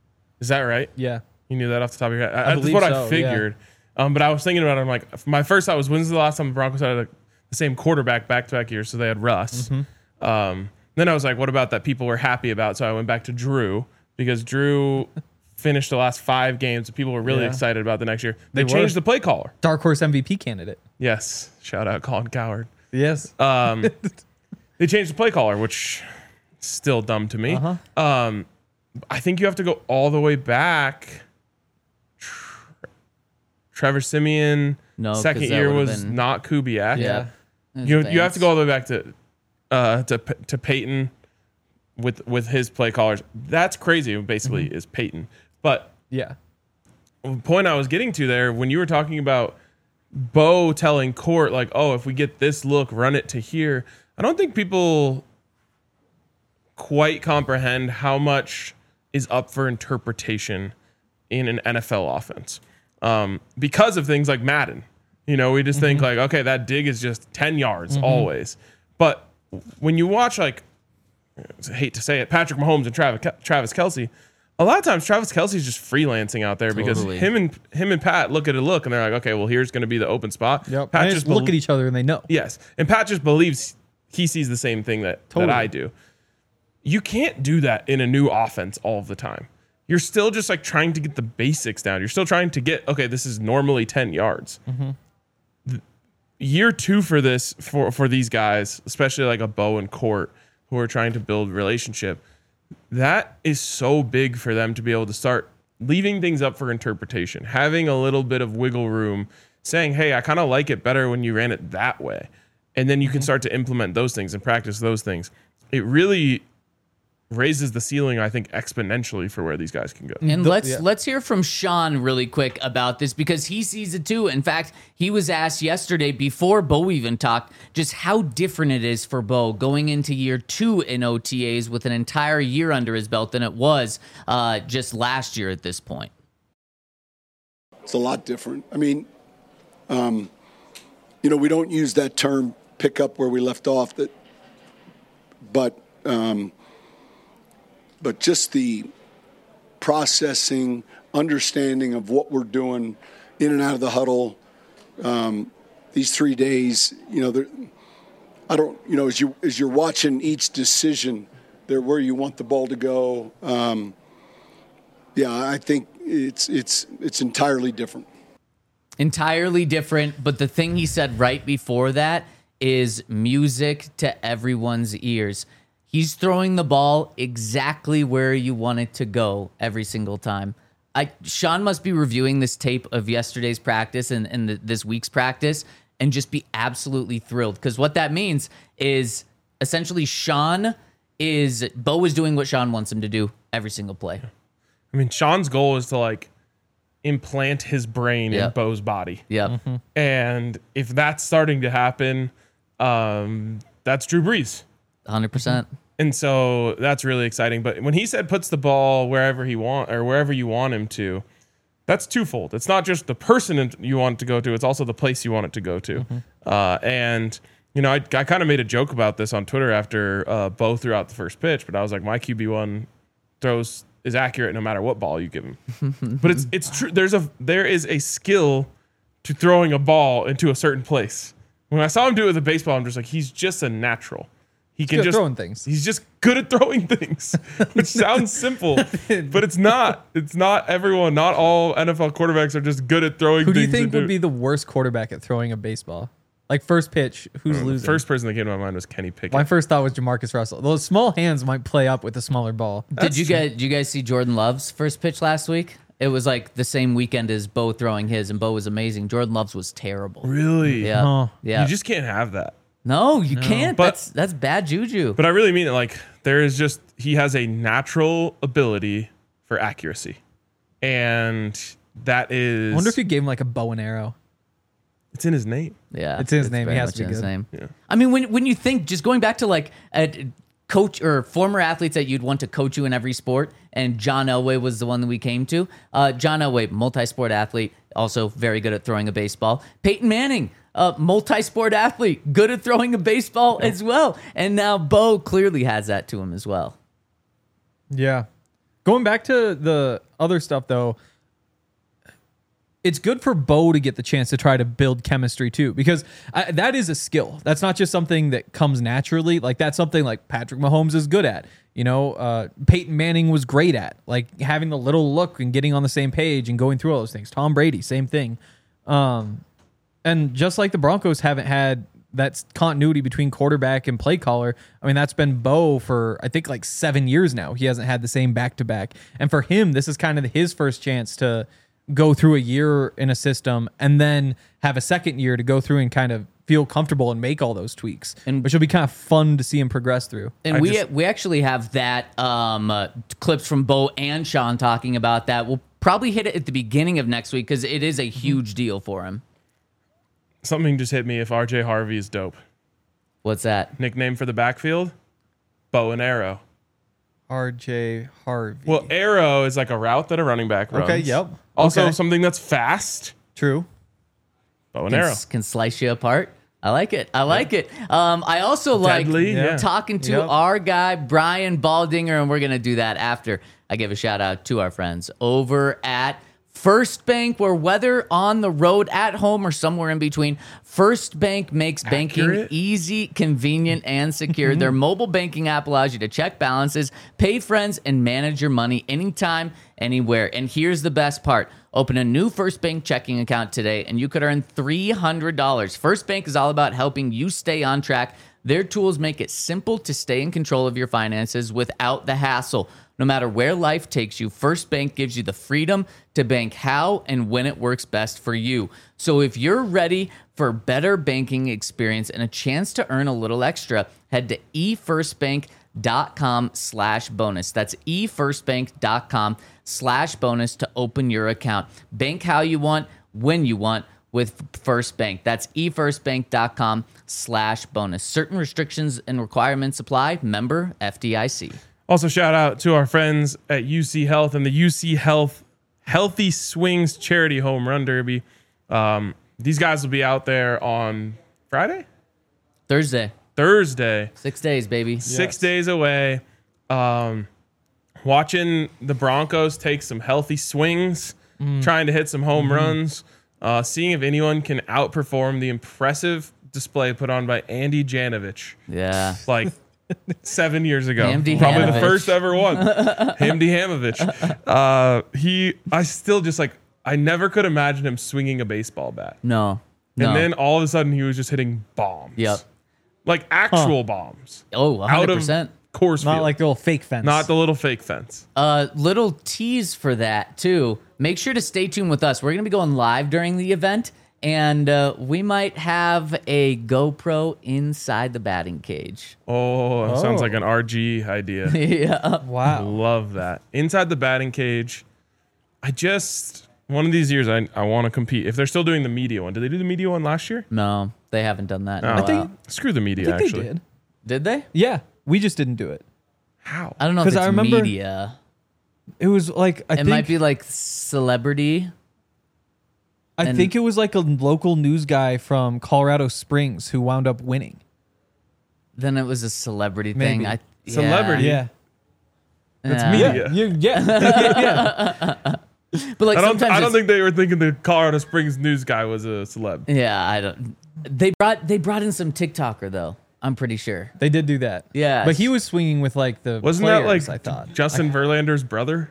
Speaker 2: Is that right?
Speaker 3: Yeah.
Speaker 2: You knew that off the top of your head?
Speaker 3: I
Speaker 2: That's
Speaker 3: believe
Speaker 2: what
Speaker 3: so,
Speaker 2: I figured. Yeah. Um, but I was thinking about it. I'm like, my first thought was, when's the last time the Broncos had a, the same quarterback back-to-back years? So they had Russ. Mm-hmm. Um, then I was like, what about that people were happy about? So I went back to Drew, because Drew finished the last five games and people were really
Speaker 3: Yeah.
Speaker 2: excited about the next year. They,
Speaker 3: They
Speaker 2: changed
Speaker 3: were.
Speaker 2: the play caller.
Speaker 3: Dark horse M V P candidate.
Speaker 2: Yes. Shout out Colin Cowherd.
Speaker 3: Yes.
Speaker 2: Um, they changed the play caller, which is still dumb to me.
Speaker 3: Uh-huh.
Speaker 2: Um, I think you have to go all the way back. Trevor Siemian,
Speaker 1: No, 'cause
Speaker 2: second
Speaker 1: that
Speaker 2: year
Speaker 1: would've
Speaker 2: was
Speaker 1: been-
Speaker 2: not Kubiak.
Speaker 3: Yeah.
Speaker 2: You you have to go all the way back to uh, to to Peyton with with his play callers. That's crazy. Basically,
Speaker 3: Mm-hmm.
Speaker 2: is Peyton. But
Speaker 3: Yeah.
Speaker 2: the point I was getting to there, when you were talking about Bo telling Court, like, oh, if we get this look, run it to here. I don't think people quite comprehend how much is up for interpretation in an N F L offense, um, because of things like Madden. You know, we just mm-hmm. think like, okay, that dig is just ten yards mm-hmm. always. But when you watch, like, I hate to say it, Patrick Mahomes and Travis Travis Kelce, a lot of times Travis Kelce's just freelancing out there because
Speaker 1: Totally.
Speaker 2: him and him and Pat look at a look and they're like, okay, well, here's going to be the open spot.
Speaker 3: Yep.
Speaker 2: Pat
Speaker 3: And
Speaker 2: just
Speaker 3: just look
Speaker 2: bel-
Speaker 3: at each other and they know.
Speaker 2: Yes, and Pat just believes he sees the same thing that,
Speaker 3: Totally.
Speaker 2: that I do. You can't do that in a new offense all of the time. You're still just like trying to get the basics down. You're still trying to get, okay, this is normally ten yards.
Speaker 3: Mm-hmm.
Speaker 2: The, year two for this, for, for these guys, especially like a Bo and Court, who are trying to build relationship, that is so big for them to be able to start leaving things up for interpretation, having a little bit of wiggle room, saying, hey, I kind of like it better when you ran it that way. And then you can start to implement those things and practice those things. It really raises the ceiling, I think, exponentially for where these guys can go.
Speaker 1: And
Speaker 3: The-
Speaker 1: let's
Speaker 3: yeah.
Speaker 1: let's hear from Sean really quick about this, because he sees it too. In fact, he was asked yesterday before Bo even talked just how different it is for Bo going into year two in O T As with an entire year under his belt than it was uh, just last year at this point.
Speaker 5: It's a lot different. I mean, um, you know, we don't use that term pick up where we left off, that, but um, but just the processing, understanding of what we're doing in and out of the huddle, um, these three days, you know, I don't, you know, as you as you're watching each decision, there where you want the ball to go. Um, yeah, I think it's it's it's entirely different.
Speaker 1: Entirely different, but the thing he said right before that is music to everyone's ears. He's throwing the ball exactly where you want it to go every single time. I, Sean must be reviewing this tape of yesterday's practice and, and the, this week's practice and just be absolutely thrilled, because what that means is essentially Sean is, Bo is doing what Sean wants him to do every single play.
Speaker 2: I mean, Sean's goal is to like implant his brain
Speaker 1: Yep.
Speaker 2: in Bo's body.
Speaker 1: Yep.
Speaker 3: Mm-hmm.
Speaker 2: And if that's starting to happen, um, that's Drew Brees.
Speaker 1: one hundred percent.
Speaker 2: And so that's really exciting. But when he said puts the ball wherever he want or wherever you want him to, that's twofold. It's not just the person you want it to go to, it's also the place you want it to go to. Mm-hmm. Uh, and, you know, I, I kind of made a joke about this on Twitter after uh, Bo threw out the first pitch, but I was like, my Q B one throws is accurate no matter what ball you give him. But it's it's true. There's a there is a skill to throwing a ball into a certain place. When I saw him do it with a baseball, I'm just like, he's just a natural. He can
Speaker 3: good at
Speaker 2: just
Speaker 3: throwing things.
Speaker 2: He's just good at throwing things, which sounds simple, but it's not. It's not everyone. Not all N F L quarterbacks are just good at throwing.
Speaker 3: Who do you
Speaker 2: things
Speaker 3: think
Speaker 2: into-
Speaker 3: would be the worst quarterback at throwing a baseball? Like first pitch, who's
Speaker 2: The
Speaker 3: losing?
Speaker 2: first person that came to my mind was Kenny Pickett.
Speaker 3: My first thought was Jamarcus Russell. Those small hands might play up with a smaller ball.
Speaker 1: Did you guys did you guys see Jordan Love's first pitch last week? It was like the same weekend as Bo throwing his, and Bo was amazing. Jordan Love's was terrible.
Speaker 2: Really?
Speaker 1: Yeah.
Speaker 3: Huh.
Speaker 1: Yeah.
Speaker 2: You just can't have that.
Speaker 1: no, you can't.
Speaker 2: But-
Speaker 1: that's that's bad juju.
Speaker 2: But I really mean it. Like, there is just, he has a natural ability for accuracy. And that is,
Speaker 3: I wonder if you gave him like a bow and arrow.
Speaker 2: it's in his name.
Speaker 1: Yeah,
Speaker 3: It's in his name.
Speaker 1: very
Speaker 3: He has
Speaker 1: much
Speaker 3: to be
Speaker 1: in his
Speaker 3: good.
Speaker 1: name.
Speaker 2: Yeah.
Speaker 1: I mean, when when you think, just going back to like a coach or former athletes that you'd want to coach you in every sport, and John Elway was the one that we came to. Uh, John Elway, multi-sport athlete, also very good at throwing a baseball. Peyton Manning, uh, multi-sport athlete, good at throwing a baseball as well. And now Bo clearly has that to him as well.
Speaker 3: Yeah. Going back to the other stuff, though, it's good for Bo to get the chance to try to build chemistry, too, because I, that is a skill. That's not just something that comes naturally. Like, that's something like Patrick Mahomes is good at. You know, uh, Peyton Manning was great at, like, having the little look and getting on the same page and going through all those things. Tom Brady, same thing. Um, and just like the Broncos haven't had that continuity between quarterback and play caller, I mean, that's been Bo for, I think, like seven years now. He hasn't had the same back-to-back. And for him, this is kind of his first chance to go through a year in a system and then have a second year to go through and kind of feel comfortable and make all those tweaks,
Speaker 1: And-
Speaker 3: which will be kind of fun to see him progress through.
Speaker 1: And
Speaker 2: I
Speaker 1: we
Speaker 2: just-
Speaker 1: we actually have that um, uh, clips from Bo and Sean talking about that. We'll probably hit it at the beginning of next week because it is a huge deal for him.
Speaker 2: Something just hit me if R J Harvey is dope.
Speaker 1: What's that?
Speaker 2: Nickname for the backfield? Bow and arrow.
Speaker 3: R J Harvey.
Speaker 2: Well, arrow is like a route that a running back runs.
Speaker 3: Okay, yep.
Speaker 2: Also,
Speaker 3: Okay.
Speaker 2: something that's fast.
Speaker 3: True.
Speaker 2: Bow and
Speaker 1: Can,
Speaker 2: arrow.
Speaker 1: s- can slice you apart. I like it. I like it. Um, I also like
Speaker 2: Deadly, yeah.
Speaker 1: talking to
Speaker 3: Yep.
Speaker 1: our guy, Brian Baldinger, and we're going to do that after I give a shout out to our friends over at First Bank, where whether on the road, at home, or somewhere in between, First Bank makes banking
Speaker 2: Accurate.
Speaker 1: easy, convenient, and secure. Their mobile banking app allows you to check balances, pay friends, and manage your money anytime, anywhere. And here's the best part. Open a new First Bank checking account today, and you could earn three hundred dollars. First Bank is all about helping you stay on track. Their tools make it simple to stay in control of your finances without the hassle. No matter where life takes you, First Bank gives you the freedom to bank how and when it works best for you. So if you're ready for better banking experience and a chance to earn a little extra, head to efirstbank.com slash bonus. That's efirstbank.com slash bonus to open your account. Bank how you want, when you want, with First Bank. That's efirstbank.com slash bonus. Certain restrictions and requirements apply. Member F D I C.
Speaker 2: Also, shout out to our friends at U C Health and the U C Health Healthy Swings Charity Home Run Derby. Um, these guys will be out there on Friday,
Speaker 1: Thursday.
Speaker 2: Thursday,
Speaker 1: Six days, baby.
Speaker 2: six
Speaker 3: Yes.
Speaker 2: days away. Um, watching the Broncos take some healthy swings, trying to hit some home runs. uh, seeing if anyone can outperform the impressive display put on by Andy Janovich.
Speaker 1: Yeah.
Speaker 2: Like seven years ago.
Speaker 1: Hamdi
Speaker 2: Probably
Speaker 1: Hamovich.
Speaker 2: the first ever one. Hamdi Hamovich. Uh, he, I still just like, I never could imagine him swinging a baseball bat.
Speaker 1: No. No.
Speaker 2: And then all of a sudden he was just hitting bombs.
Speaker 1: Yep.
Speaker 2: Like actual bombs.
Speaker 1: Oh, one
Speaker 2: Out
Speaker 1: hundred
Speaker 2: of
Speaker 1: percent.
Speaker 2: course
Speaker 3: Not
Speaker 2: field.
Speaker 3: like the little fake fence.
Speaker 2: Not the little fake fence.
Speaker 1: Uh, little tease for that too. Make sure to stay tuned with us. We're going to be going live during the event, and uh, we might have a GoPro inside the batting cage.
Speaker 2: Oh, that sounds
Speaker 3: Oh.
Speaker 2: like an R G idea.
Speaker 1: Yeah.
Speaker 3: Wow.
Speaker 2: Love that. Inside the batting cage. I just, one of these years, I, I want to compete. If they're still doing the media one. Did they do the media one last year?
Speaker 1: No, they haven't done that. in a
Speaker 2: Oh. I
Speaker 1: while.
Speaker 3: think-
Speaker 2: Screw the media,
Speaker 3: I think
Speaker 2: actually.
Speaker 3: they did.
Speaker 1: Did they?
Speaker 3: Yeah, we just didn't do it.
Speaker 2: How?
Speaker 1: I don't know if
Speaker 3: 'Cause
Speaker 1: it's
Speaker 3: I remember-
Speaker 1: media.
Speaker 3: It was like I
Speaker 1: It
Speaker 3: think
Speaker 1: might be like celebrity.
Speaker 3: I
Speaker 1: and-
Speaker 3: think it was like a local news guy from Colorado Springs who wound up winning.
Speaker 1: Then it was a celebrity thing.
Speaker 3: Maybe.
Speaker 1: I, yeah.
Speaker 2: Celebrity?
Speaker 3: Yeah,
Speaker 2: That's
Speaker 1: Yeah.
Speaker 2: media.
Speaker 3: You- yeah, yeah.
Speaker 1: But like
Speaker 2: I don't.
Speaker 1: sometimes
Speaker 2: I don't
Speaker 1: it's-
Speaker 2: think they were thinking the Colorado Springs news guy was a celeb.
Speaker 1: Yeah, I don't. They brought they brought in some TikToker though. I'm pretty sure.
Speaker 3: They did do that.
Speaker 1: Yes.
Speaker 3: but he was swinging with like the
Speaker 2: Wasn't that
Speaker 3: players,
Speaker 2: like
Speaker 3: I thought
Speaker 2: Justin Verlander's brother?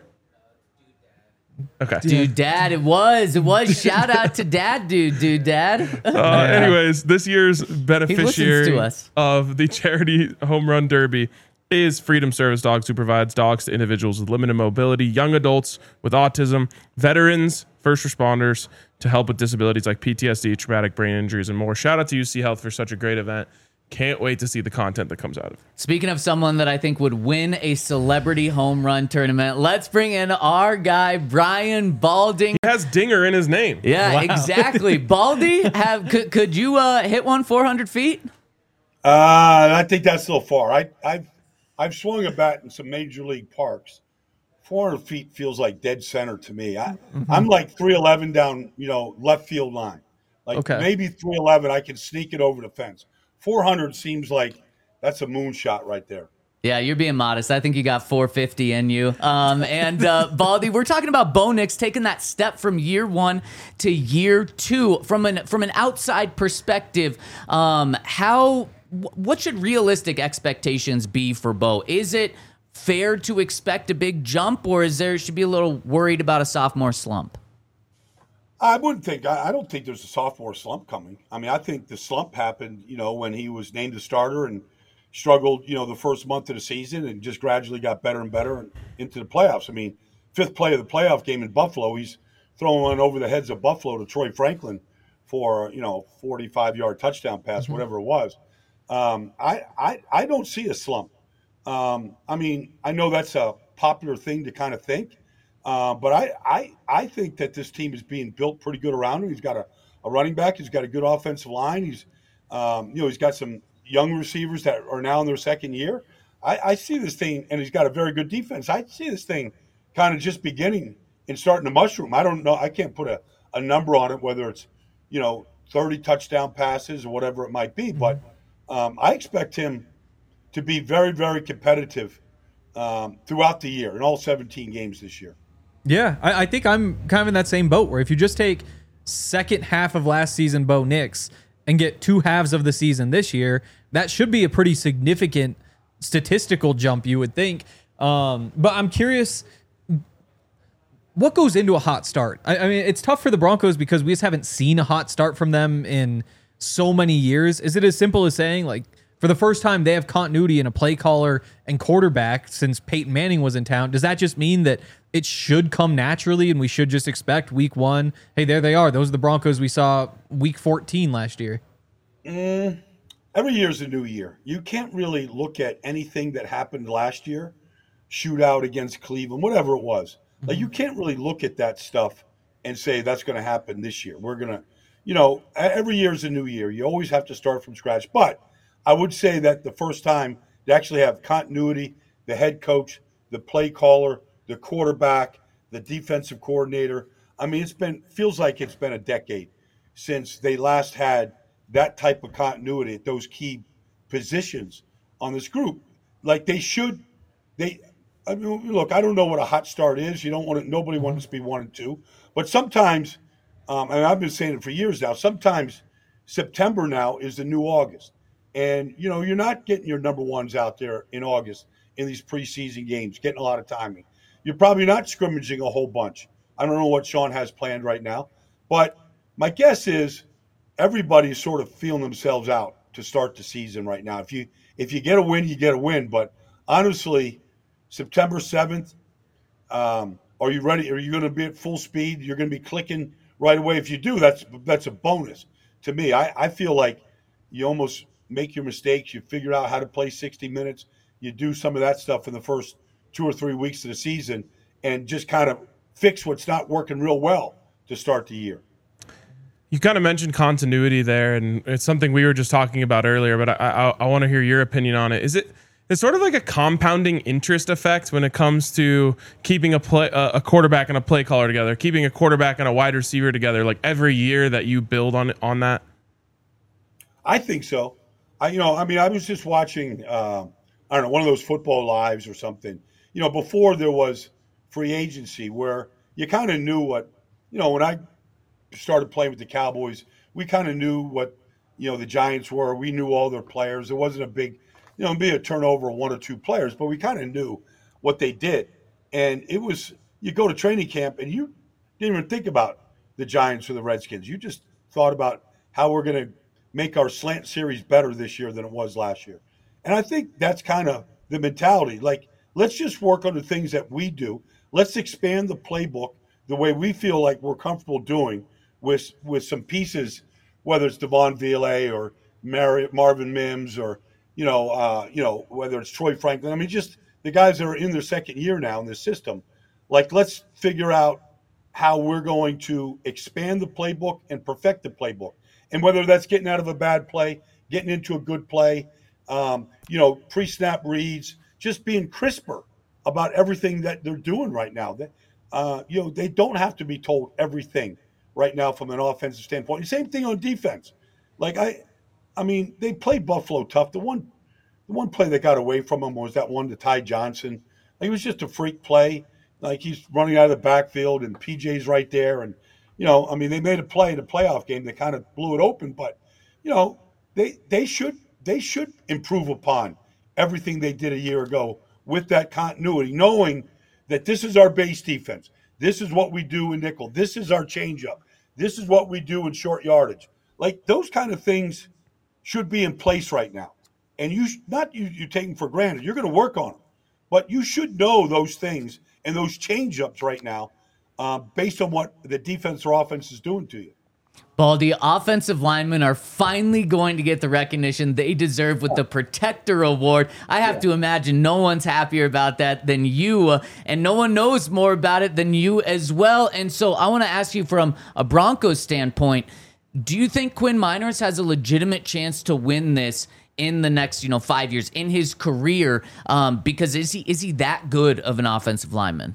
Speaker 2: Okay.
Speaker 1: Dude, Dad, it was. It was. Shout out to Dad, dude, dude, Dad.
Speaker 2: Uh, anyways, this year's beneficiary
Speaker 1: to us.
Speaker 2: of the charity home run derby is Freedom Service Dogs, who provides dogs to individuals with limited mobility, young adults with autism, veterans, first responders to help with disabilities like P T S D, traumatic brain injuries, and more. Shout out to U C Health for such a great event. Can't wait to see the content that comes out of it.
Speaker 1: Speaking of someone that I think would win a celebrity home run tournament, let's bring in our guy, Brian Balding.
Speaker 2: He has Dinger in his name.
Speaker 1: Yeah, exactly. Baldy, have could, could you uh, hit one four hundred feet?
Speaker 6: Uh, I think that's a little far. I, I've I've swung a bat in some major league parks. four hundred feet feels like dead center to me. I,
Speaker 3: Mm-hmm.
Speaker 6: I'm like three eleven down, you know, left field line. Like
Speaker 3: Okay.
Speaker 6: maybe three eleven, I can sneak it over the fence. four hundred seems like that's a moonshot right there.
Speaker 1: Yeah, you're being modest. I think you got four fifty in you. Um, and uh, Baldy, we're talking about Bo Nix taking that step from year one to year two. From an from an outside perspective, um, how wh- what should realistic expectations be for Bo? Is it fair to expect a big jump, or is there should be a little worried about a sophomore slump?
Speaker 6: I wouldn't think. I, I don't think there's a sophomore slump coming. I mean, I think the slump happened, you know, when he was named the starter and struggled, you know, the first month of the season and just gradually got better and better and into the playoffs. I mean, fifth play of the playoff game in Buffalo, he's throwing one over the heads of Buffalo to Troy Franklin for, you know, forty-five yard touchdown pass, mm-hmm. whatever it was. Um, I, I, I don't see a slump. Um, I mean, I know that's a popular thing to kind of think. Uh, but I, I I think that this team is being built pretty good around him. He's got a, a running back. He's got a good offensive line. He's um, you know he's got some young receivers that are now in their second year. I, I see this thing, and he's got a very good defense. I see this thing kind of just beginning and starting to mushroom. I don't know. I can't put a, a number on it, whether it's you know thirty touchdown passes or whatever it might be. But um, I expect him to be very, very competitive um, throughout the year in all seventeen games this year.
Speaker 3: Yeah, I, I think I'm kind of in that same boat where if you just take second half of last season Bo Nix and get two halves of the season this year, that should be a pretty significant statistical jump, you would think. Um, but I'm curious, what goes into a hot start? I, I mean, it's tough for the Broncos because we just haven't seen a hot start from them in so many years. Is it as simple as saying, like, for the first time they have continuity in a play caller and quarterback since Peyton Manning was in town? Does that just mean that it should come naturally and we should just expect week one, hey, there they are. Those are the Broncos we saw week fourteen last year?
Speaker 6: Mm, every year's a new year. You can't really look at anything that happened last year, shootout against Cleveland, whatever it was. Mm-hmm. Like you can't really look at that stuff and say that's going to happen this year. We're going to, you know, every year's a new year. You always have to start from scratch. But I would say that the first time they actually have continuity, the head coach, the play caller, the quarterback, the defensive coordinator. I mean, it's been feels like it's been a decade since they last had that type of continuity at those key positions on this group. Like they should, they. I mean, look, I don't know what a hot start is. You don't want to. Nobody wants to be one and two, but sometimes Um, and I've been saying it for years now. Sometimes September now is the new August. And, you know, you're not getting your number ones out there in August in these preseason games, getting a lot of timing. You're probably not scrimmaging a whole bunch. I don't know what Sean has planned right now. But my guess is everybody's sort of feeling themselves out to start the season right now. If you if you get a win, you get a win. But honestly, September seventh, um, are you ready? Are you going to be at full speed? You're going to be clicking right away. If you do, that's that's a bonus to me. I, I feel like you almost make your mistakes. You figure out how to play sixty minutes. You do some of that stuff in the first two or three weeks of the season and just kind of fix what's not working real well to start the year.
Speaker 2: You kind of mentioned continuity there, and it's something we were just talking about earlier, but I, I, I want to hear your opinion on it. Is it it's sort of like a compounding interest effect when it comes to keeping a play, uh, a quarterback and a play caller together, keeping a quarterback and a wide receiver together, like every year that you build on on that?
Speaker 6: I think so. I, you know, I mean, I was just watching, uh, I don't know, one of those football lives or something. You know, before there was free agency, where you kind of knew what, you know, when I started playing with the Cowboys, we kind of knew what, you know, the Giants were. We knew all their players. There wasn't a big, you know, be a turnover of one or two players, but we kind of knew what they did. And it was, you go to training camp and you didn't even think about the Giants or the Redskins. You just thought about how we're going to make our slant series better this year than it was last year. And I think that's kind of the mentality. Like, let's just work on the things that we do. Let's expand the playbook the way we feel like we're comfortable doing with with some pieces, whether it's Devon Villay or Mar- Marvin Mims or, you know, uh, you know, whether it's Troy Franklin. I mean, just the guys that are in their second year now in this system. Like, let's figure out how we're going to expand the playbook and perfect the playbook. And whether that's getting out of a bad play, getting into a good play, um, you know, pre-snap reads, just being crisper about everything that they're doing right now. That, uh, you know, they don't have to be told everything right now from an offensive standpoint. The same thing on defense. Like, I I mean, they played Buffalo tough. The one the one play that got away from them was that one to Ty Johnson. Like, it was just a freak play. Like, he's running out of the backfield and P J's right there. And, you know, I mean, they made a play in a playoff game that kind of blew it open. But, you know, they they should they should improve upon everything they did a year ago with that continuity, knowing that this is our base defense. This is what we do in nickel. This is our changeup. This is what we do in short yardage. Like, those kind of things should be in place right now. And you not you, you take them for granted. You're going to work on them. But you should know those things and those changeups right now uh, based on what the defense or offense is doing to you.
Speaker 1: Baldy, offensive linemen are finally going to get the recognition they deserve with the Protector Award. I have yeah. to imagine no one's happier about that than you, uh, and no one knows more about it than you as well. And so I want to ask you from a Broncos standpoint, do you think Quinn Meinerz has a legitimate chance to win this in the next, you know, five years in his career? Um, because is he is he that good of an offensive lineman?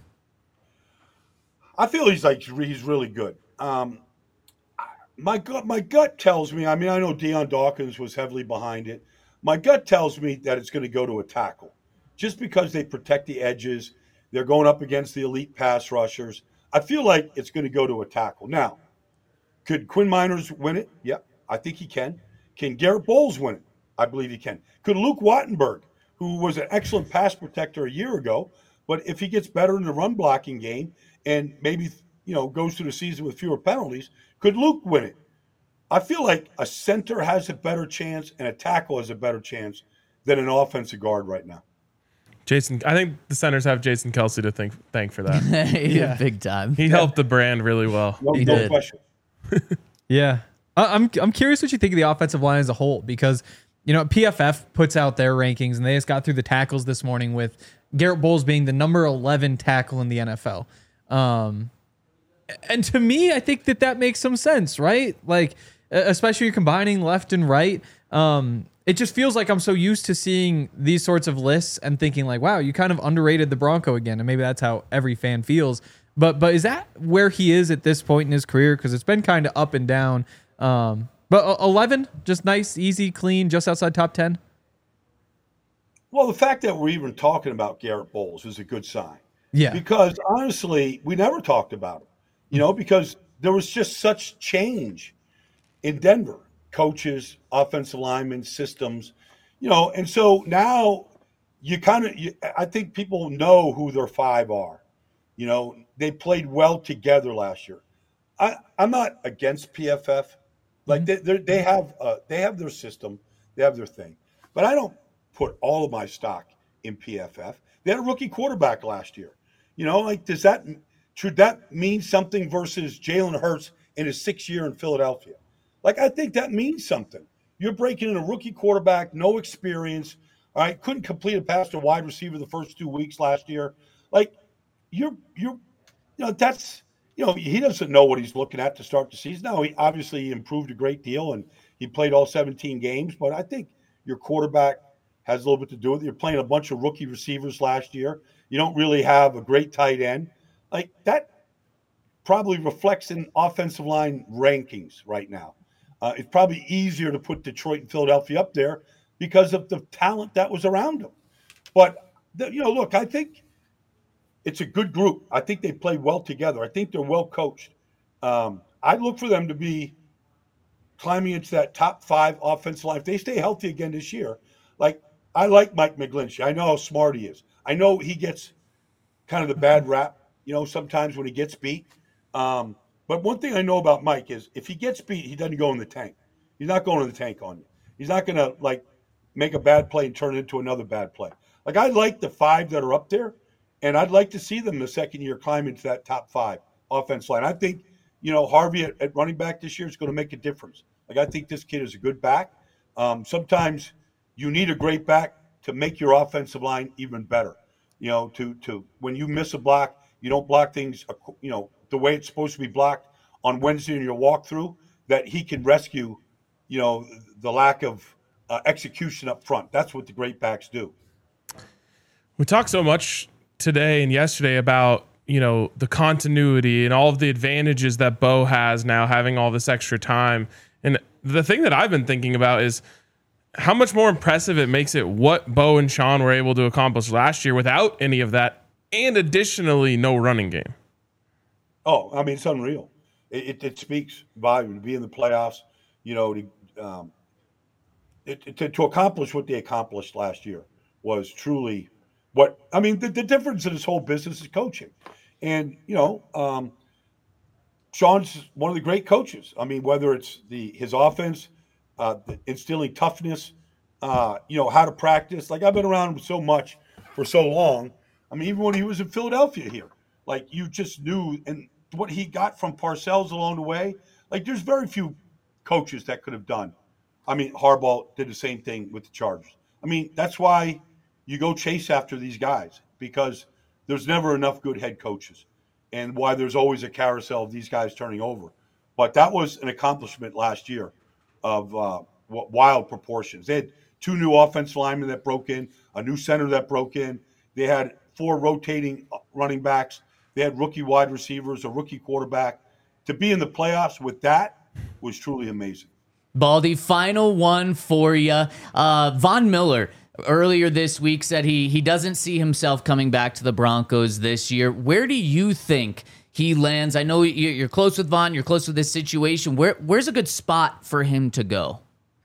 Speaker 6: I feel he's like he's really good. Um, My gut, my gut tells me, I mean, I know Deion Dawkins was heavily behind it. My gut tells me that it's going to go to a tackle just because they protect the edges. They're going up against the elite pass rushers. I feel like it's going to go to a tackle. Now, could Quinn Meinerz win it? Yeah, I think he can. Can Garrett Bowles win it? I believe he can. Could Luke Wattenberg, who was an excellent pass protector a year ago, but if he gets better in the run blocking game and maybe, you know, goes through the season with fewer penalties, could Luke win it? I feel like a center has a better chance and a tackle has a better chance than an offensive guard right now.
Speaker 2: Jason, I think the centers have Jason Kelce to thank thank for that.
Speaker 1: yeah, big time.
Speaker 2: He yeah. helped the brand really well.
Speaker 6: No,
Speaker 1: he
Speaker 6: no
Speaker 1: did.
Speaker 6: question.
Speaker 3: yeah, I, I'm I'm curious what you think of the offensive line as a whole, because you know P F F puts out their rankings and they just got through the tackles this morning with Garrett Bowles being the number eleven tackle in the N F L. Um, and to me, I think that that makes some sense, right? Like, especially you're combining left and right. Um, it just feels like I'm so used to seeing these sorts of lists and thinking like, wow, you kind of underrated the Bronco again. And maybe that's how every fan feels. But but is that where he is at this point in his career? Because it's been kind of up and down. Um, but eleven, just nice, easy, clean, just outside top ten.
Speaker 6: Well, the fact that we're even talking about Garrett Bowles is a good sign.
Speaker 3: Yeah.
Speaker 6: Because honestly, we never talked about him. You know, because there was just such change in Denver. Coaches, offensive linemen, systems, you know, and so now you kind of, I think people know who their five are. You know, they played well together last year. I, I'm not against P F F. Like they they have uh, they have their system, they have their thing, but I don't put all of my stock in P F F. They had a rookie quarterback last year. You know, like does that should that mean something versus Jalen Hurts in his sixth year in Philadelphia? Like I think that means something. You're breaking in a rookie quarterback, no experience. All right, couldn't complete a pass to wide receiver the first two weeks last year. Like you're you're you know that's. You know, he doesn't know what he's looking at to start the season. Now, he obviously improved a great deal, and he played all seventeen games. But I think your quarterback has a little bit to do with it. You're playing a bunch of rookie receivers last year. You don't really have a great tight end. Like, that probably reflects in offensive line rankings right now. Uh, it's probably easier to put Detroit and Philadelphia up there because of the talent that was around them. But, the, you know, look, I think – it's a good group. I think they played well together. I think they're well coached. Um, I look for them to be climbing into that top five offensive line. If they stay healthy again this year, like I like Mike McGlinchey. I know how smart he is. I know he gets kind of the bad rap, you know, sometimes when he gets beat. Um, but one thing I know about Mike is if he gets beat, he doesn't go in the tank. He's not going in the tank on you. He's not going to like make a bad play and turn it into another bad play. Like I like the five that are up there. And I'd like to see them the second year climb into that top five offense line. I think, you know, Harvey at, at running back this year is going to make a difference. Like, I think this kid is a good back. Um, sometimes you need a great back to make your offensive line even better. You know, to to when you miss a block, you don't block things, you know, the way it's supposed to be blocked on Wednesday in your walkthrough, that he can rescue, you know, the lack of uh, execution up front. That's what the great backs do.
Speaker 2: We talk so much today and yesterday about, you know, the continuity and all of the advantages that Bo has now having all this extra time. And the thing that I've been thinking about is how much more impressive it makes it what Bo and Sean were able to accomplish last year without any of that, and additionally no running game.
Speaker 6: Oh, I mean, it's unreal. It, it, it speaks volume to be in the playoffs, you know, to, um, it, to, to accomplish what they accomplished last year was truly what, I mean, the, the difference in this whole business is coaching. And, you know, um, Sean's one of the great coaches. I mean, whether it's the his offense, uh, the instilling toughness, uh, you know, how to practice. Like, I've been around him so much for so long. I mean, even when he was in Philadelphia here, like, you just knew, and what he got from Parcells along the way, like, there's very few coaches that could have done. I mean, Harbaugh did the same thing with the Chargers. I mean, that's why you go chase after these guys, because there's never enough good head coaches, and why there's always a carousel of these guys turning over. But that was an accomplishment last year of uh, wild proportions. They had two new offensive linemen that broke in, a new center that broke in. They had four rotating running backs. They had rookie wide receivers, a rookie quarterback. To be in the playoffs with that was truly amazing.
Speaker 1: Baldy, final one for you. Uh, Von Miller earlier this week said he he doesn't see himself coming back to the Broncos this year. Where do you think he lands? I know you're close with Von. You're close with this situation. Where where's a good spot for him to go?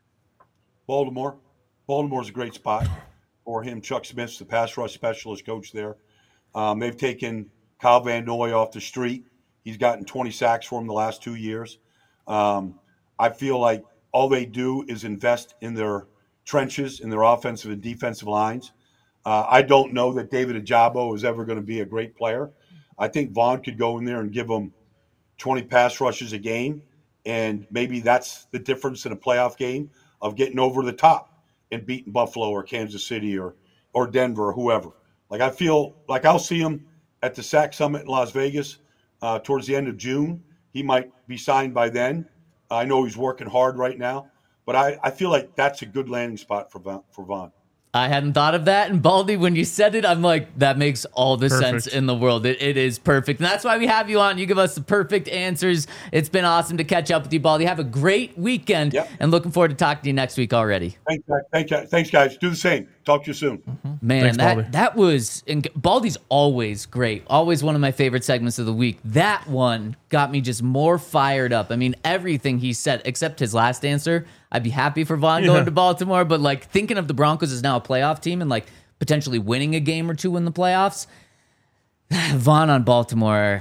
Speaker 6: Baltimore. Baltimore's a great spot for him. Chuck Smith's the pass rush specialist coach there. Um, they've taken Kyle Van Noy off the street. He's gotten twenty sacks for him the last two years. Um, I feel like all they do is invest in their trenches, in their offensive and defensive lines. Uh, I don't know that David Ajabo is ever going to be a great player. I think Vaughn could go in there and give them twenty pass rushes a game, and maybe that's the difference in a playoff game of getting over the top and beating Buffalo or Kansas City or or Denver or whoever. Like, I feel like I'll see him at the Sack Summit in Las Vegas uh, towards the end of June. He might be signed by then. I know he's working hard right now, but I, I feel like that's a good landing spot for Von, for Von.
Speaker 1: I hadn't thought of that. And Baldy, when you said it, I'm like, that makes all the
Speaker 2: Perfect.
Speaker 1: sense in the world. It, it is perfect. And that's why we have you on. You give us the perfect answers. It's been awesome to catch up with you, Baldy. Have a great weekend.
Speaker 6: Yep.
Speaker 1: And looking forward to talking to you next week already.
Speaker 6: Thanks, guys. Thanks, guys. Thanks, guys. Do the same. Talk to you soon.
Speaker 1: Mm-hmm. Man,
Speaker 2: Thanks,
Speaker 1: that
Speaker 2: Baldy.
Speaker 1: that was and Baldy's always great. Always one of my favorite segments of the week. That one got me just more fired up. I mean, everything he said, except his last answer. I'd be happy for Vaughn
Speaker 2: Yeah.
Speaker 1: going to Baltimore, but like thinking of the Broncos as now a playoff team and like potentially winning a game or two in the playoffs. Vaughn on Baltimore.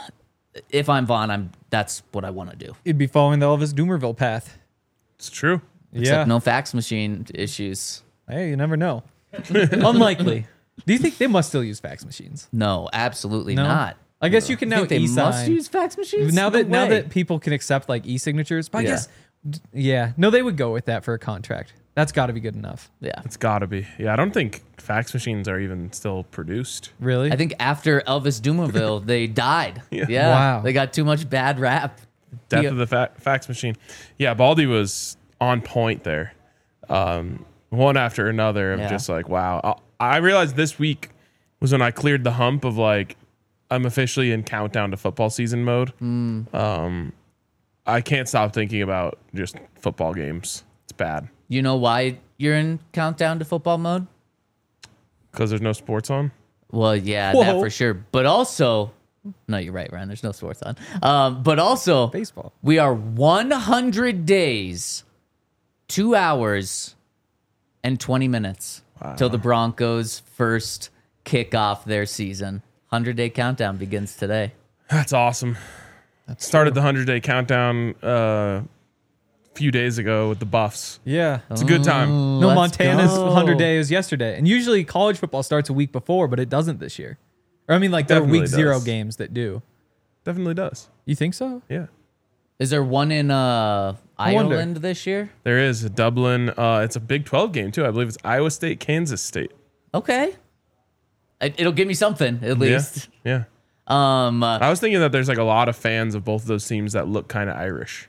Speaker 1: If I'm Vaughn, I'm that's what I want to do.
Speaker 3: It'd be following the Elvis Doomerville path.
Speaker 2: It's true.
Speaker 1: Except
Speaker 3: Yeah.
Speaker 1: no fax machine issues.
Speaker 3: Hey, you never know. Unlikely. Do you think they must still use fax machines?
Speaker 1: No, absolutely
Speaker 3: No?
Speaker 1: not.
Speaker 3: I guess you can
Speaker 1: You
Speaker 3: now
Speaker 1: think they
Speaker 3: e-sign.
Speaker 1: must use fax machines
Speaker 3: now
Speaker 1: No
Speaker 3: that now
Speaker 1: way.
Speaker 3: that people can accept like e-signatures. But I
Speaker 1: Yeah.
Speaker 3: guess d- yeah, no, they would go with that for a contract. That's got to be good enough.
Speaker 1: Yeah.
Speaker 2: It's got to be. Yeah, I don't think fax machines are even still produced.
Speaker 3: Really?
Speaker 1: I think after Elvis Dumerville, they died.
Speaker 2: Yeah.
Speaker 1: Yeah.
Speaker 3: Wow.
Speaker 1: They got too much bad rap.
Speaker 2: Death
Speaker 1: Yeah.
Speaker 2: of the fa- fax machine. Yeah, Baldy was on point there. Um, one after another of
Speaker 1: Yeah.
Speaker 2: just like, wow. I, I realized this week was when I cleared the hump of like, I'm officially in countdown to football season mode.
Speaker 1: Mm.
Speaker 2: Um, I can't stop thinking about just football games. It's bad
Speaker 1: You know why you're in countdown to football mode?
Speaker 2: because there's no sports on.
Speaker 1: Well, yeah, that
Speaker 3: Whoa.
Speaker 1: for sure. But also, no, you're right, Ryan. There's no sports on. Um, but also,
Speaker 3: Baseball.
Speaker 1: we are one hundred days, two hours, and twenty minutes till the Broncos first kick off their season. one hundred day countdown begins today.
Speaker 2: That's awesome. Started the one hundred day countdown uh, a few days ago with the Buffs.
Speaker 3: Yeah.
Speaker 2: It's a good time.
Speaker 3: No,
Speaker 1: Let's
Speaker 3: Montana's
Speaker 1: go.
Speaker 3: one hundred day was yesterday. And usually college football starts a week before, but it doesn't this year. Or I mean, like there are
Speaker 2: Definitely
Speaker 3: week zero
Speaker 2: does.
Speaker 3: games that do.
Speaker 2: Definitely does.
Speaker 3: You think so?
Speaker 2: Yeah.
Speaker 1: Is there one in uh,
Speaker 3: I wonder.
Speaker 1: Ireland this year?
Speaker 2: There is a Dublin. Uh, it's a Big twelve game too. I believe it's Iowa State, Kansas State.
Speaker 1: Okay. It, it'll give me something at least.
Speaker 2: Yeah.
Speaker 1: Um, uh,
Speaker 2: I was thinking that there's like a lot of fans of both of those teams that look kind of Irish.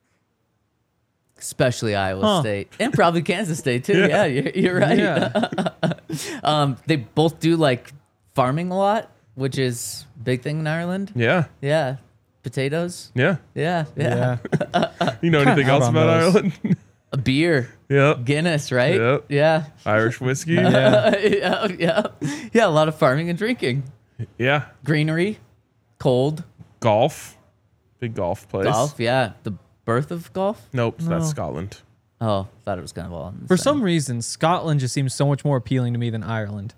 Speaker 1: especially Iowa
Speaker 3: Huh.
Speaker 1: State and probably Kansas State too. Yeah, you're, you're right.
Speaker 3: Yeah.
Speaker 1: Um, they both do like farming a lot, which is a big thing in Ireland.
Speaker 2: Yeah.
Speaker 1: Yeah, potatoes.
Speaker 2: Yeah.
Speaker 1: Yeah, yeah.
Speaker 3: Yeah.
Speaker 2: You know anything
Speaker 3: out
Speaker 2: else
Speaker 3: on
Speaker 2: about
Speaker 3: those.
Speaker 2: Ireland?
Speaker 1: A beer,
Speaker 2: Yep.
Speaker 1: Guinness, right?
Speaker 2: Yep.
Speaker 1: Yeah.
Speaker 2: Irish whiskey.
Speaker 3: Yeah.
Speaker 1: yeah, yeah, yeah. A lot of farming and drinking,
Speaker 2: Yeah.
Speaker 1: greenery, cold,
Speaker 2: Golf. Big golf place.
Speaker 1: golf. Yeah, the birth of golf.
Speaker 2: Nope. That's Scotland.
Speaker 1: Oh, thought it was kind of all. in the
Speaker 3: For
Speaker 1: same.
Speaker 3: some reason, Scotland just seems so much more appealing to me than Ireland.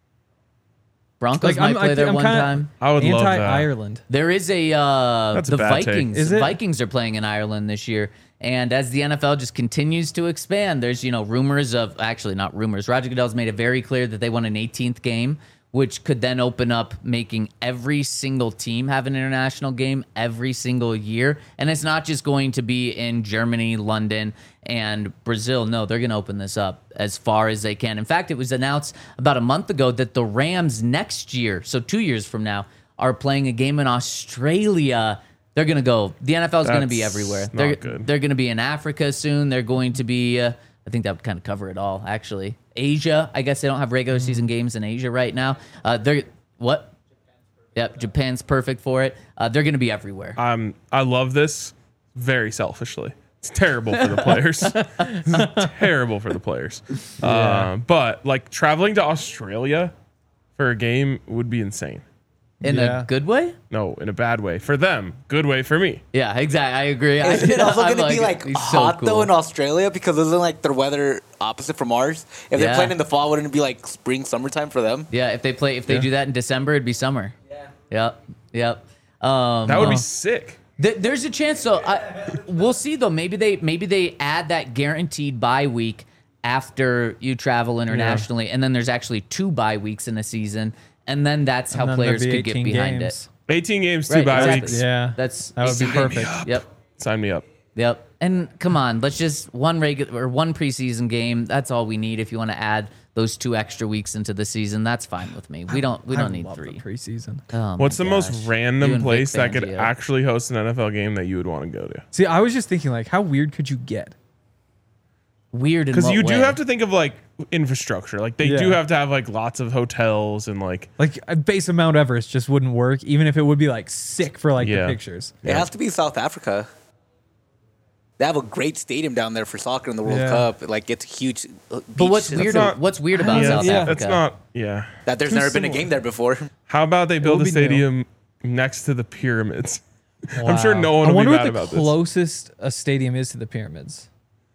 Speaker 1: Broncos might play
Speaker 3: I
Speaker 1: there
Speaker 3: think I'm
Speaker 1: one
Speaker 3: kinda
Speaker 1: time.
Speaker 2: I would love that.
Speaker 3: Anti-Ireland.
Speaker 1: There is a uh,
Speaker 2: That's a
Speaker 1: the
Speaker 2: bad take.
Speaker 1: Vikings.
Speaker 3: Is
Speaker 1: the
Speaker 3: it?
Speaker 1: Vikings are playing in Ireland this year, and as the N F L just continues to expand, there's you know rumors of actually not rumors. Roger Goodell's made it very clear that they want an eighteenth game, which could then open up making every single team have an international game every single year, and it's not just going to be in Germany, London, and Brazil. No, they're going to open this up as far as they can. In fact, it was announced about a month ago that the Rams next year, so two years from now, are playing a game in Australia. They're going to go. The N F L is going to be
Speaker 2: That's
Speaker 1: everywhere.
Speaker 2: not
Speaker 1: They're
Speaker 2: good.
Speaker 1: they're going to be in Africa soon. They're going to be. Uh, I think that would kind of cover it all. Actually, Asia. I guess they don't have regular season games in Asia right now. Uh, they're what? Yep, Japan's perfect for it. Uh, they're going to be everywhere.
Speaker 2: Um, I love this very selfishly. It's terrible for the players. It's terrible for the players. Uh, but like traveling to Australia for a game would be insane.
Speaker 1: In
Speaker 3: Yeah.
Speaker 1: a good way?
Speaker 2: No, in a bad way for them. Good way for me.
Speaker 1: Yeah, exactly. I agree.
Speaker 7: Is
Speaker 1: I,
Speaker 7: it also
Speaker 1: I'm
Speaker 7: going to be like
Speaker 1: it's so
Speaker 7: hot though
Speaker 1: cool.
Speaker 7: in Australia because isn't like their weather opposite from ours? If they're
Speaker 1: Yeah.
Speaker 7: playing in the fall, wouldn't it be like spring, summertime for them?
Speaker 1: Yeah, if they play, if they
Speaker 2: Yeah.
Speaker 1: do that in December, it'd be summer. Yeah. Yep. Yep. Um,
Speaker 2: That would be sick.
Speaker 1: Th- there's a chance though. I, we'll see though. Maybe they maybe they add that guaranteed bye week after you travel internationally, and then there's actually two bye weeks in a season, and then that's how
Speaker 3: And then there'd
Speaker 1: players
Speaker 3: be
Speaker 1: could get
Speaker 3: eighteen
Speaker 1: behind
Speaker 3: games.
Speaker 2: eighteen games, two
Speaker 1: Right,
Speaker 2: bye
Speaker 1: exactly.
Speaker 2: weeks.
Speaker 3: Yeah.
Speaker 1: That's
Speaker 3: That would be
Speaker 1: eighteen
Speaker 3: perfect.
Speaker 1: Yep.
Speaker 2: Sign me up.
Speaker 1: Yep. And come on, let's just one regular or one preseason game. That's all we need. If you want to add those two extra weeks into the season, that's fine with me. We don't. We
Speaker 3: I
Speaker 1: don't need
Speaker 3: love the
Speaker 1: three.
Speaker 3: preseason.
Speaker 1: Oh
Speaker 2: What's
Speaker 1: my
Speaker 2: the
Speaker 1: gosh.
Speaker 2: most
Speaker 1: You
Speaker 2: random
Speaker 1: and Vic
Speaker 2: place that could
Speaker 1: Fangio.
Speaker 2: actually host an N F L game that you would want to go to?
Speaker 3: See, I was just thinking, like, how weird could you get?
Speaker 1: Weird?
Speaker 2: Because
Speaker 1: Because
Speaker 2: you do have to think of like infrastructure. Like they do
Speaker 3: Yeah.
Speaker 2: have to have like lots of hotels and like
Speaker 3: Like, a base of Mount Everest just wouldn't work, even if it would be like sick for like
Speaker 2: Yeah.
Speaker 3: the pictures.
Speaker 7: It has to be South Africa. They have a great stadium down there for soccer in the World
Speaker 3: Yeah.
Speaker 7: Cup. Like it's a huge. uh,
Speaker 1: But what's
Speaker 7: beach.
Speaker 1: weird?
Speaker 2: not-
Speaker 1: what's weird about
Speaker 2: Yeah,
Speaker 1: South
Speaker 3: yeah.
Speaker 1: Africa?
Speaker 2: That's not. Yeah.
Speaker 7: That there's
Speaker 3: Too
Speaker 7: never been a
Speaker 3: similar.
Speaker 7: game there before.
Speaker 2: How about they build
Speaker 3: would
Speaker 2: a
Speaker 3: be new.
Speaker 2: stadium next to the pyramids? I'm sure
Speaker 3: Wow.
Speaker 2: no one
Speaker 3: I
Speaker 2: will be
Speaker 3: wonder
Speaker 2: mad
Speaker 3: what the
Speaker 2: about this.
Speaker 3: closest a stadium is to the pyramids.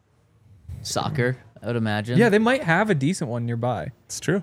Speaker 1: Soccer, I would imagine.
Speaker 3: Yeah, they might have a decent one nearby.
Speaker 2: It's true.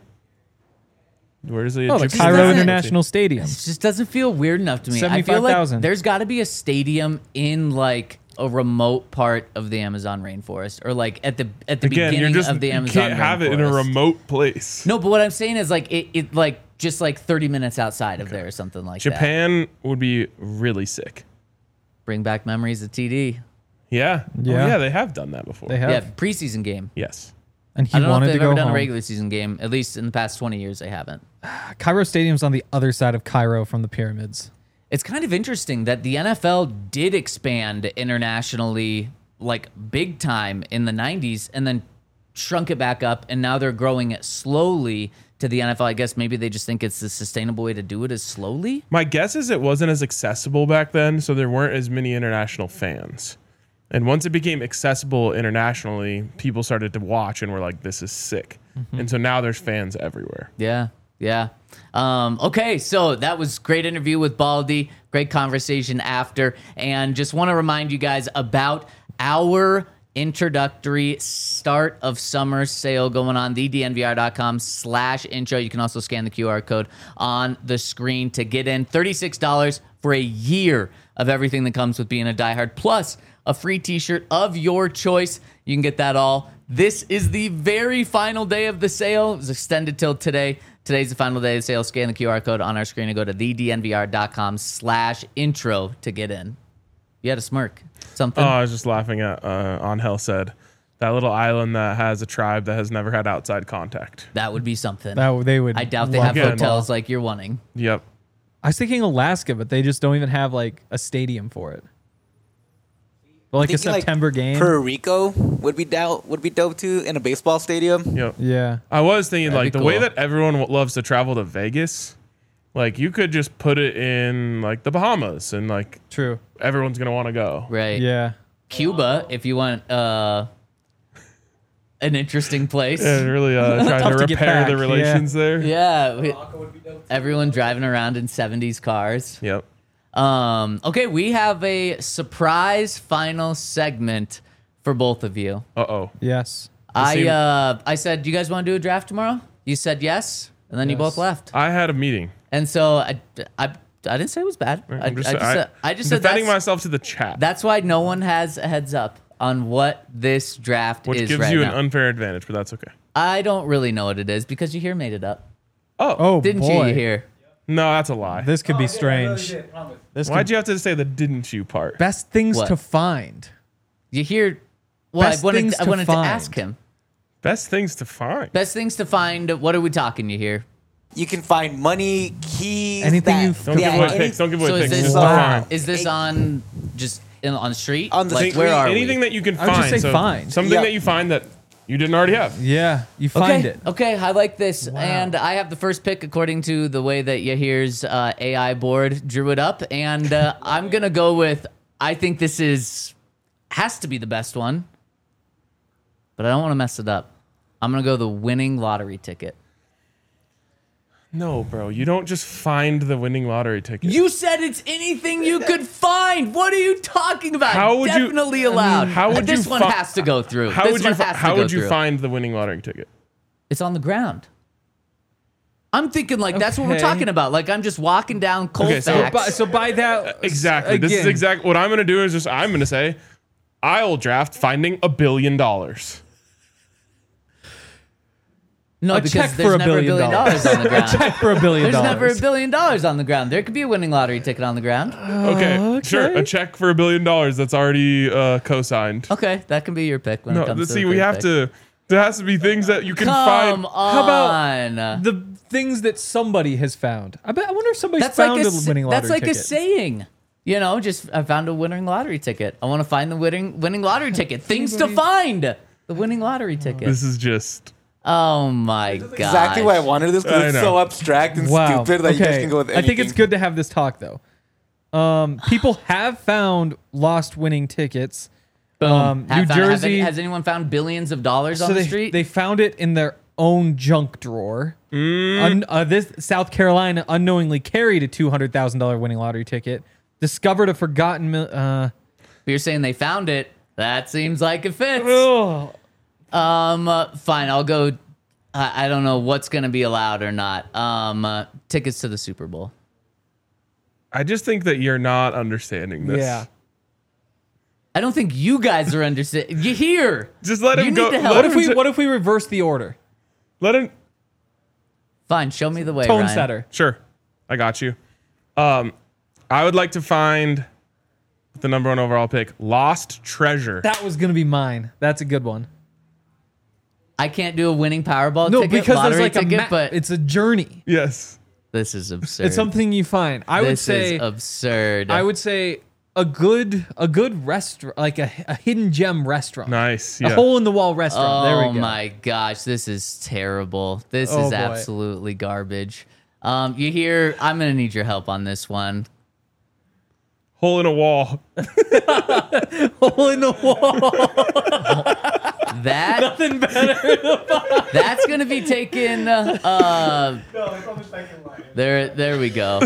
Speaker 2: Where's the
Speaker 3: Oh, the
Speaker 2: Egyptian
Speaker 3: Cairo
Speaker 1: doesn't-
Speaker 3: International Stadium.
Speaker 1: It just doesn't feel weird enough to me. I feel like
Speaker 3: seventy-five thousand.
Speaker 1: there's got to be a stadium in like a remote part of the Amazon rainforest, or like at the at the
Speaker 2: Again, you're
Speaker 1: beginning
Speaker 2: just
Speaker 1: of the
Speaker 2: you
Speaker 1: Amazon
Speaker 2: can't have it in a
Speaker 1: rainforest.
Speaker 2: remote place.
Speaker 1: No, but what I'm saying is like it, it like just like thirty minutes outside of there or something like that.
Speaker 2: Japan would be really sick.
Speaker 1: Bring back memories of T D.
Speaker 2: Yeah.
Speaker 3: Yeah.
Speaker 2: Oh, yeah, they have done that before.
Speaker 3: They have.
Speaker 1: Yeah, preseason game.
Speaker 2: Yes.
Speaker 3: And he
Speaker 1: I don't know if
Speaker 3: wanted
Speaker 1: they've
Speaker 3: to go
Speaker 1: ever done
Speaker 3: home.
Speaker 1: a regular season game. At least in the past twenty years, they haven't.
Speaker 3: Cairo Stadium's on the other side of Cairo from the pyramids.
Speaker 1: It's kind of interesting that the N F L did expand internationally like big time in the nineties and then shrunk it back up, and now they're growing it slowly to the N F L. I guess maybe they just think it's the sustainable way to do it is slowly.
Speaker 2: My guess is it wasn't as accessible back then, so there weren't as many international fans. And once it became accessible internationally, people started to watch and were like, this is sick.
Speaker 1: Mm-hmm.
Speaker 2: And so now there's fans everywhere.
Speaker 1: Yeah, yeah. Um, okay, so that was great interview with Baldy. Great conversation after. And just want to remind you guys about our introductory start of summer sale going on, the D N V R dot com slash intro. You can also scan the Q R code on the screen to get in. thirty-six dollars for a year of everything that comes with being a diehard, plus a free t-shirt of your choice. You can get that all. This is the very final day of the sale. It was extended till today. Today's the final day of the sale. Scan the Q R code on our screen and go to the D N V R dot com slash intro to get in. You had a smirk. Something?
Speaker 2: Oh, I was just laughing at uh, On Hell said, that little island that has a tribe that has never had outside contact.
Speaker 1: That would be something.
Speaker 3: That they would.
Speaker 1: I doubt they
Speaker 3: love
Speaker 1: have
Speaker 2: Again.
Speaker 1: hotels like you're wanting.
Speaker 2: Yep.
Speaker 3: I was thinking Alaska, but they just don't even have like a stadium for it. But like a
Speaker 7: Thinking,
Speaker 3: September game.
Speaker 7: Puerto Rico would be dope. Would be dope too in a baseball stadium.
Speaker 2: Yep.
Speaker 3: yeah.
Speaker 2: I was thinking,
Speaker 1: That'd
Speaker 2: like,
Speaker 1: be
Speaker 2: the way
Speaker 1: cool.
Speaker 2: that everyone w- loves to travel to Vegas, like, you could just put it in, like, the Bahamas, and, like,
Speaker 3: True.
Speaker 2: everyone's going to want to go.
Speaker 1: Right.
Speaker 3: Yeah.
Speaker 1: Cuba, if you want uh, an interesting place.
Speaker 2: Yeah, really uh, trying
Speaker 3: Tough
Speaker 2: to
Speaker 3: to get
Speaker 2: repair
Speaker 3: back,
Speaker 2: the relations there.
Speaker 1: Yeah. we- everyone driving around in seventies cars.
Speaker 2: Yep.
Speaker 1: Um, okay, we have a surprise final segment for both of you.
Speaker 2: Uh-oh.
Speaker 3: Yes.
Speaker 1: I
Speaker 2: seem-
Speaker 1: uh, I said, do you guys want to do a draft tomorrow? You said yes, and then you
Speaker 3: Yes.
Speaker 1: both left.
Speaker 2: I had a meeting.
Speaker 1: And so I, I, I didn't say it was bad. I,
Speaker 2: I'm just,
Speaker 1: I just,
Speaker 2: I,
Speaker 1: said, I just
Speaker 2: I'm
Speaker 1: said
Speaker 2: defending
Speaker 1: that's,
Speaker 2: myself to the chat,
Speaker 1: that's why no one has a heads up on what this draft
Speaker 2: which
Speaker 1: is
Speaker 2: gives
Speaker 1: right
Speaker 2: you
Speaker 1: now.
Speaker 2: an unfair advantage, but that's okay.
Speaker 1: I don't really know what it is because you here made it up.
Speaker 2: Oh,
Speaker 3: Oh,
Speaker 1: Didn't
Speaker 3: boy.
Speaker 1: you, you hear?
Speaker 2: no, that's a lie.
Speaker 3: This could be strange. This
Speaker 2: Why'd
Speaker 3: could,
Speaker 2: you have to say the didn't you part?
Speaker 3: best things
Speaker 1: What?
Speaker 3: to find.
Speaker 1: You hear? Well,
Speaker 3: Best
Speaker 1: I wanted,
Speaker 3: things
Speaker 1: I
Speaker 3: to
Speaker 1: wanted to
Speaker 3: find.
Speaker 1: ask him.
Speaker 2: Best things to find.
Speaker 1: Best things to find. What are we talking you here?
Speaker 7: You can find money, keys,
Speaker 3: Anything
Speaker 7: that,
Speaker 3: you
Speaker 2: Don't
Speaker 7: yeah,
Speaker 2: give away
Speaker 7: any-
Speaker 2: picks. Don't give away
Speaker 1: So is
Speaker 2: picks.
Speaker 1: this
Speaker 2: Just
Speaker 3: Wow.
Speaker 2: find.
Speaker 1: is this on just in, on the street?
Speaker 7: On the
Speaker 1: like,
Speaker 7: street.
Speaker 1: where are
Speaker 2: Anything
Speaker 1: we?
Speaker 2: that you can
Speaker 3: I would
Speaker 2: find.
Speaker 3: just say
Speaker 2: so
Speaker 3: find.
Speaker 2: Something
Speaker 7: Yeah.
Speaker 2: that you find that you didn't already have.
Speaker 3: Yeah. You find
Speaker 1: okay,
Speaker 3: it.
Speaker 1: okay, I like this, and I have the first pick according to the way that Yahir's uh, A I board drew it up, and uh, I'm gonna go with. I think this is has to be the best one, but I don't want to mess it up. I'm gonna go the winning lottery ticket.
Speaker 2: No, bro. You don't just find the winning lottery ticket.
Speaker 1: You said it's anything you could find. What are you talking about?
Speaker 2: How would you-
Speaker 1: Definitely allowed.
Speaker 2: how would
Speaker 1: this
Speaker 2: you
Speaker 1: one
Speaker 2: fi-
Speaker 1: has to go through.
Speaker 2: How
Speaker 1: this
Speaker 2: would you?
Speaker 1: one
Speaker 2: fi-
Speaker 1: has to
Speaker 2: How
Speaker 1: go
Speaker 2: would you
Speaker 1: through.
Speaker 2: find the winning lottery ticket?
Speaker 1: It's on the ground. I'm thinking like that's what we're
Speaker 3: Okay.
Speaker 1: talking about. Like I'm just walking down Colfax.
Speaker 2: Okay, so-
Speaker 3: By, so by that.
Speaker 2: Exactly. This is
Speaker 3: again,
Speaker 2: exactly what I'm going to do. Is just I'm going to say, I'll draft finding a billion dollars.
Speaker 1: no,
Speaker 3: a
Speaker 1: because
Speaker 3: check
Speaker 1: there's
Speaker 3: for a
Speaker 1: never
Speaker 3: billion
Speaker 1: a billion dollars on the ground.
Speaker 3: check for a billion
Speaker 1: There's
Speaker 3: dollars.
Speaker 1: never a billion dollars on the ground. There could be a winning lottery ticket on the ground.
Speaker 2: Okay, sure. A check for a billion dollars that's already uh, co-signed.
Speaker 1: Okay, that can be your pick when it
Speaker 2: No,
Speaker 1: comes
Speaker 2: let's
Speaker 1: to
Speaker 2: see.
Speaker 1: the
Speaker 2: We
Speaker 1: third
Speaker 2: have
Speaker 1: pick.
Speaker 2: to. There has to be things that you can
Speaker 1: Come
Speaker 2: find.
Speaker 1: on.
Speaker 3: How about the things that somebody has found? I bet. I wonder if somebody's
Speaker 1: that's
Speaker 3: found
Speaker 1: like a,
Speaker 3: a
Speaker 1: s-
Speaker 3: winning lottery
Speaker 1: that's like
Speaker 3: ticket.
Speaker 1: a saying. You know, just I found a winning lottery ticket. I want to find the winning winning lottery ticket. Things to find. The winning lottery ticket.
Speaker 2: This is just.
Speaker 1: Oh my god.
Speaker 7: Exactly why I wanted this
Speaker 2: I
Speaker 7: because it's
Speaker 2: know.
Speaker 7: so abstract and
Speaker 3: Wow.
Speaker 7: stupid that you guys
Speaker 3: okay.
Speaker 7: can go with
Speaker 3: I
Speaker 7: anything.
Speaker 3: think it's good to have this talk though. Um, people have found lost winning tickets.
Speaker 1: Boom.
Speaker 3: Um,
Speaker 1: Have
Speaker 3: New
Speaker 1: found- have
Speaker 3: Jersey.
Speaker 1: any- has anyone found billions of dollars on
Speaker 3: so
Speaker 1: the
Speaker 3: they,
Speaker 1: street?
Speaker 3: they found it in their own junk drawer. Un, uh, this South Carolina unknowingly carried a two hundred thousand dollars winning lottery ticket. Discovered a forgotten. Mil- uh,
Speaker 1: You're saying they found it. That seems like it fits.
Speaker 3: oh,
Speaker 1: Um, uh, fine. I'll go. I, I don't know what's going to be allowed or not. Um, uh, tickets to the Super Bowl.
Speaker 2: I just think that you're not understanding this.
Speaker 3: yeah.
Speaker 1: I don't think you guys are understanding. You hear?
Speaker 2: Just let
Speaker 1: You
Speaker 2: him
Speaker 1: need
Speaker 2: go.
Speaker 1: to help.
Speaker 2: Let
Speaker 3: What if
Speaker 2: him,
Speaker 3: we
Speaker 2: t-
Speaker 3: What if we reverse the order?
Speaker 2: let him.
Speaker 1: Fine. Show me the way.
Speaker 3: Tone
Speaker 1: Ryan.
Speaker 3: setter.
Speaker 2: Sure, I got you. Um, I would like to find the number one overall pick, Lost Treasure.
Speaker 3: That was gonna be mine. That's a good one.
Speaker 1: I can't do a winning Powerball
Speaker 3: No,
Speaker 1: ticket,
Speaker 3: because there's
Speaker 1: lottery
Speaker 3: like a
Speaker 1: ticket,
Speaker 3: map.
Speaker 1: but
Speaker 3: It's a journey.
Speaker 2: Yes.
Speaker 1: this is absurd.
Speaker 3: It's something you find. I would
Speaker 1: this
Speaker 3: say.
Speaker 1: is absurd.
Speaker 3: I would say a good a good restaurant, like a, a hidden gem restaurant.
Speaker 2: Nice.
Speaker 3: A
Speaker 2: Yeah.
Speaker 3: hole in the wall restaurant.
Speaker 1: Oh
Speaker 3: there we go.
Speaker 1: my gosh, this is terrible. This
Speaker 3: Oh,
Speaker 1: is
Speaker 3: boy.
Speaker 1: absolutely garbage. Um, you hear? I'm gonna need your help on this one.
Speaker 2: Hole in a wall.
Speaker 3: Hole in the wall.
Speaker 1: That
Speaker 3: Nothing better.
Speaker 1: that's gonna be taken. Uh, uh, there, there we go.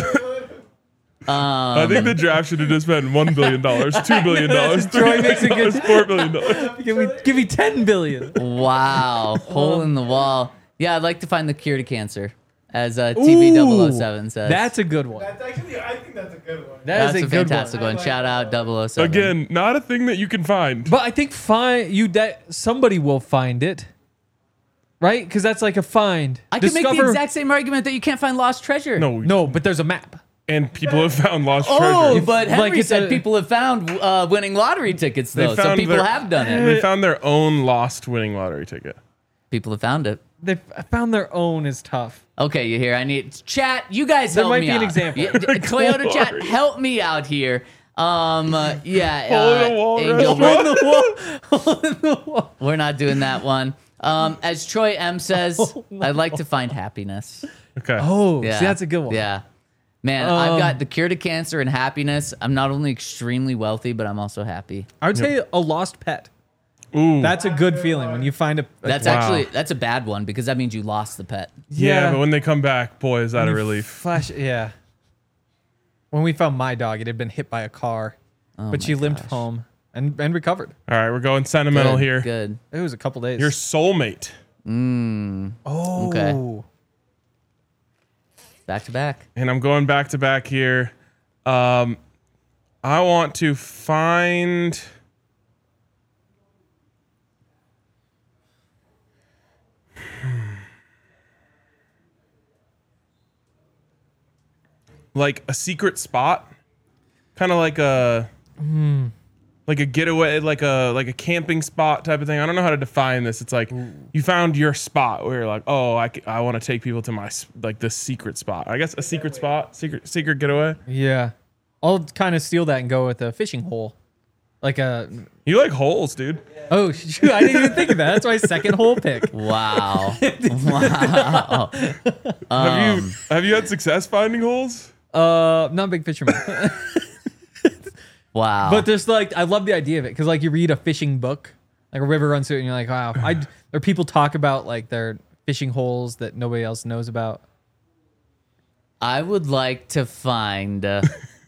Speaker 2: I
Speaker 1: Um,
Speaker 2: think the draft should have just been one billion dollars, two billion dollars,
Speaker 3: Troy
Speaker 2: three
Speaker 3: makes a
Speaker 2: billion
Speaker 3: good-
Speaker 2: dollars, four billion dollars.
Speaker 3: give me give me ten billion.
Speaker 1: wow, hole in the wall. Yeah, I'd like to find the cure to cancer, as uh, T V double oh seven says.
Speaker 3: That's a good one.
Speaker 8: That's actually, I think that's a good one.
Speaker 3: That
Speaker 1: That's
Speaker 3: is
Speaker 1: a,
Speaker 3: a, good
Speaker 1: fantastic
Speaker 3: one.
Speaker 1: one. Shout out double oh seven.
Speaker 2: Again, not a thing that you can find.
Speaker 3: But I think find you that somebody will find it, right? Because that's like a find.
Speaker 1: I can make the
Speaker 3: Discover-
Speaker 1: exact same argument that you can't find lost treasure.
Speaker 2: No,
Speaker 3: No, but there's a map.
Speaker 2: and people have found lost
Speaker 1: Oh,
Speaker 2: treasure.
Speaker 1: but Henry
Speaker 3: like it's
Speaker 1: said
Speaker 3: a-
Speaker 1: people have found uh, winning lottery tickets
Speaker 2: They
Speaker 1: though, so
Speaker 2: found
Speaker 1: people
Speaker 2: their-
Speaker 1: have done it.
Speaker 2: They found their own lost winning lottery ticket.
Speaker 1: People have found it.
Speaker 3: They found their own is tough.
Speaker 1: Okay, you hear? I need chat. You guys
Speaker 3: There
Speaker 1: help
Speaker 3: might
Speaker 1: me
Speaker 3: be an
Speaker 1: out.
Speaker 3: example.
Speaker 1: Yeah, Toyota chat,
Speaker 2: Glory.
Speaker 1: help me out here. Um, uh, yeah,
Speaker 2: Hole in
Speaker 1: uh,
Speaker 2: the wall
Speaker 1: Angel,
Speaker 2: restaurant.
Speaker 1: we're, we're not doing that one. Um, as Troy M says, I'd like to find happiness.
Speaker 2: Okay.
Speaker 3: Oh,
Speaker 1: Yeah,
Speaker 3: see, that's a good one.
Speaker 1: Yeah, man,
Speaker 3: Um,
Speaker 1: I've got the cure to cancer and happiness. I'm not only extremely wealthy, but I'm also happy.
Speaker 3: I would say a lost pet.
Speaker 2: Ooh.
Speaker 3: That's a good feeling when you find a. a
Speaker 1: That's
Speaker 2: Wow.
Speaker 1: actually that's a bad one because that means you lost the pet.
Speaker 2: yeah, but when they come back, boy, is that a
Speaker 3: you
Speaker 2: relief.
Speaker 3: Flash, yeah. When we found my dog, it had been hit by a car,
Speaker 1: Oh
Speaker 3: but
Speaker 1: my
Speaker 3: she limped
Speaker 1: gosh.
Speaker 3: home and, and recovered.
Speaker 2: All right, we're going sentimental
Speaker 1: Good,
Speaker 2: here.
Speaker 1: Good.
Speaker 3: It was a couple days.
Speaker 2: Your soulmate.
Speaker 3: oh,
Speaker 1: Okay. Back to back.
Speaker 2: And I'm going back to back here. Um, I want to find. Like a secret spot, kind of like a like a getaway, like a like a camping spot type of thing. I don't know how to define this. It's like you found your spot where you're like, oh, I, c- I want to take people to my s- like this secret spot. I guess a secret spot, secret secret getaway.
Speaker 3: Yeah. I'll kind of steal that and go with a fishing hole. Like a.
Speaker 2: You like holes, dude.
Speaker 3: Oh, shoot. I didn't even think of that. That's my second hole pick.
Speaker 1: Wow. wow.
Speaker 2: have you have you had success finding holes?
Speaker 3: Uh, not a big fisherman.
Speaker 1: Wow.
Speaker 3: But there's like, I love the idea of it because like you read a fishing book, like a river runs through it, and you're like, wow. I or people talk about like their fishing holes that nobody else knows about.
Speaker 1: I would like to find. Uh,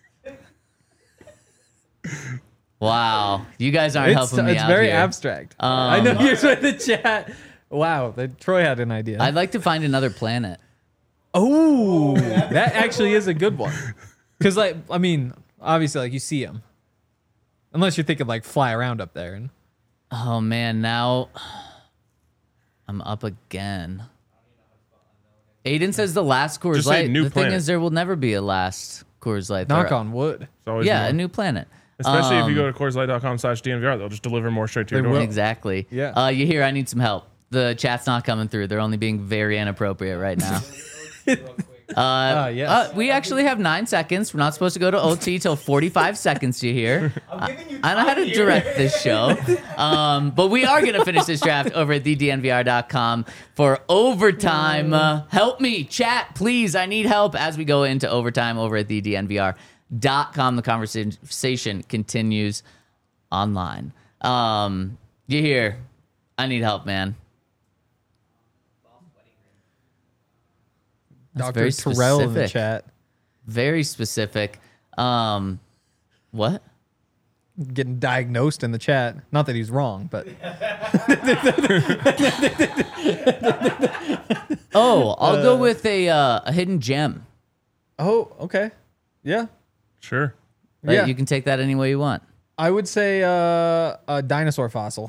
Speaker 1: wow. You guys aren't
Speaker 3: It's,
Speaker 1: helping me
Speaker 3: it's
Speaker 1: out
Speaker 3: very
Speaker 1: here.
Speaker 3: abstract. I know
Speaker 1: Um,
Speaker 3: you're trying to chat. Wow, that Troy had an idea.
Speaker 1: I'd like to find another planet.
Speaker 3: oh, that actually is a good one. Because like, I mean, obviously, like you see them, unless you're thinking like fly around up there. And
Speaker 1: Oh man, now I'm up again. Aiden says the last Coors
Speaker 2: Just say
Speaker 1: Light.
Speaker 2: new
Speaker 1: the thing
Speaker 2: planet.
Speaker 1: is, there will never be a last Coors Light.
Speaker 3: knock
Speaker 1: There-
Speaker 3: on wood.
Speaker 2: It's always
Speaker 1: Yeah,
Speaker 2: more.
Speaker 1: a new planet.
Speaker 2: Especially if you
Speaker 1: Um,
Speaker 2: go to CoorsLight.com slash DNVR, they'll just deliver more straight to your
Speaker 3: They
Speaker 2: door.
Speaker 3: will.
Speaker 1: Exactly.
Speaker 3: Yeah.
Speaker 1: Uh, you hear? I need some help. The chat's not coming through. They're only being very inappropriate right now. Uh,
Speaker 3: Ah, yes.
Speaker 1: uh, we actually have nine seconds. We're not supposed to go to O T till forty-five seconds. You hear? I, I know how to direct this show, um, but we are going to finish this draft over at the D N V R dot com for overtime. Uh, help me, chat, please. I need help as we go into overtime over at the D N V R dot com. The conversation continues online. Um, you hear? I need help, man. That's
Speaker 3: Doctor
Speaker 1: very
Speaker 3: Terrell in the
Speaker 1: specific.
Speaker 3: chat.
Speaker 1: Very specific. Um, what?
Speaker 3: Getting diagnosed in the chat. Not that he's wrong, but
Speaker 1: Oh, I'll go with a uh, a hidden gem.
Speaker 3: oh, okay, yeah,
Speaker 2: Sure.
Speaker 1: Right?
Speaker 3: yeah.
Speaker 1: You can take that any way you want.
Speaker 3: I would say uh, a dinosaur fossil.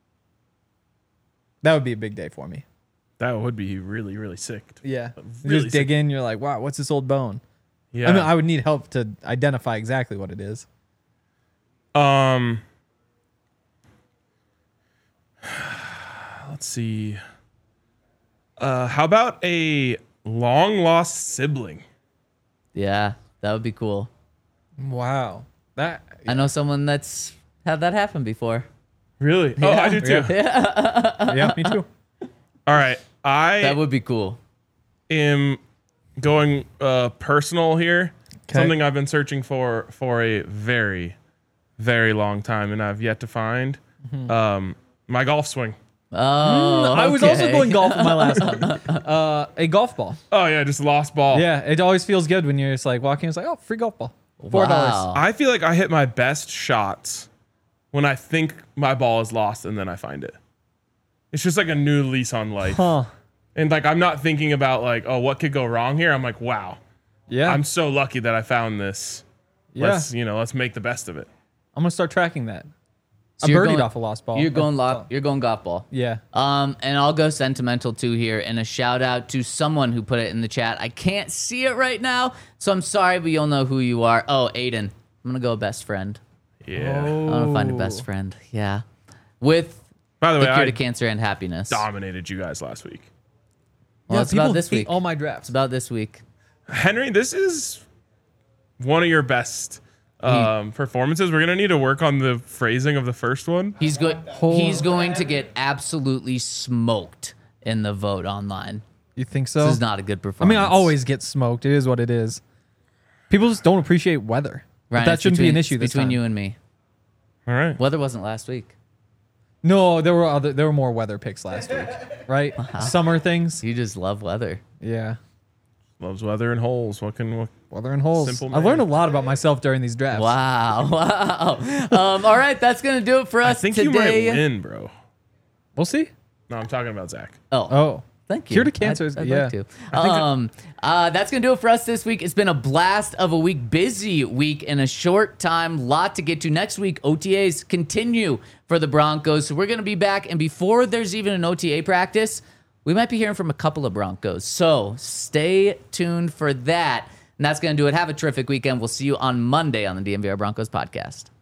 Speaker 3: That would be a big day for me.
Speaker 2: That would be really, really sick.
Speaker 3: Yeah, you
Speaker 2: Really
Speaker 3: just dig in. You're like, wow, what's this old bone?
Speaker 2: Yeah.
Speaker 3: I mean, I would need help to identify exactly what it is.
Speaker 2: Um, let's see. Uh, how about a long lost sibling?
Speaker 1: Yeah, that would be cool.
Speaker 3: Wow, that
Speaker 1: I know someone that's had that happen before.
Speaker 2: Really? Oh, I do too.
Speaker 3: yeah, me too.
Speaker 2: All right. I
Speaker 1: That would be cool.
Speaker 2: am going uh, personal here.
Speaker 3: 'Kay.
Speaker 2: Something I've been searching for for a very, very long time, and I've yet to find. Um, my golf swing.
Speaker 1: Oh,
Speaker 3: I was also
Speaker 1: okay.
Speaker 3: going golf in my last one. Uh, a golf ball.
Speaker 2: Oh yeah, just lost ball.
Speaker 3: Yeah, it always feels good when you're just like walking. It's like, oh, free golf ball, four dollars.
Speaker 1: Wow.
Speaker 2: I feel like I hit my best shots when I think my ball is lost and then I find it. It's just like a new lease on life.
Speaker 3: Huh?
Speaker 2: And like I'm not thinking about like, oh, what could go wrong here? I'm like, wow,
Speaker 3: Yeah,
Speaker 2: I'm so lucky that I found this.
Speaker 3: yeah.
Speaker 2: Let's you know, let's make the best of it.
Speaker 3: I'm gonna start tracking that.
Speaker 1: So
Speaker 3: I
Speaker 1: you're
Speaker 3: birdied
Speaker 1: going-
Speaker 3: off a lost ball.
Speaker 1: You're going
Speaker 3: Oh,
Speaker 1: lo- You're going golf ball.
Speaker 3: Yeah.
Speaker 1: Um, and I'll go sentimental too here, and a shout out to someone who put it in the chat. I can't see it right now, so I'm sorry, but you'll know who you are. Oh, Aiden. I'm gonna go best friend.
Speaker 2: Yeah.
Speaker 1: I'm gonna find a best friend. Yeah, with
Speaker 2: By the
Speaker 1: the
Speaker 2: way,
Speaker 1: cure
Speaker 2: I
Speaker 1: to cancer and happiness.
Speaker 2: dominated you guys last week.
Speaker 1: Well,
Speaker 3: Yeah,
Speaker 1: it's about
Speaker 3: people
Speaker 1: this
Speaker 3: hate
Speaker 1: week.
Speaker 3: all my
Speaker 1: It's
Speaker 3: drafts.
Speaker 1: about this week.
Speaker 2: Henry, this is one of your best um, performances. We're gonna need to work on the phrasing of the first one.
Speaker 1: He's go- He's going to get absolutely smoked in the vote online.
Speaker 3: You think so?
Speaker 1: This is not a good
Speaker 3: I
Speaker 1: performance.
Speaker 3: mean, I always get smoked. It is what it is. People just don't appreciate weather. But
Speaker 1: Ryan,
Speaker 3: that
Speaker 1: it's
Speaker 3: shouldn't be
Speaker 1: between-
Speaker 3: an issue
Speaker 1: it's
Speaker 3: this
Speaker 1: between
Speaker 3: time.
Speaker 1: you and me.
Speaker 2: All right.
Speaker 1: Weather wasn't last week.
Speaker 3: No, there were other. There were more weather picks last week, right? Summer things.
Speaker 1: You just love weather.
Speaker 3: Yeah,
Speaker 2: Loves weather and holes. What can what?
Speaker 3: weather and holes.
Speaker 2: Simple
Speaker 3: I learned a
Speaker 2: man.
Speaker 3: lot about myself during these drafts.
Speaker 1: Wow, wow. um, all right, that's gonna do it for
Speaker 2: I
Speaker 1: us
Speaker 2: think you might
Speaker 1: today.
Speaker 2: win, bro.
Speaker 3: We'll see.
Speaker 2: No, I'm talking about Zach.
Speaker 1: Oh,
Speaker 3: Oh,
Speaker 1: thank you.
Speaker 3: Cure to cancer
Speaker 1: I'd,
Speaker 3: is-
Speaker 1: I'd
Speaker 3: yeah.
Speaker 1: like to. Um, uh, that's gonna do it for us this week. It's been a blast of a week, busy week in a short time. Lot to get to. Next week, O T As continue for the Broncos, so we're gonna be back. And before there's even an O T A practice, we might be hearing from a couple of Broncos. So stay tuned for that. And that's gonna do it. Have a terrific weekend. We'll see you on Monday on the D M V R Broncos podcast.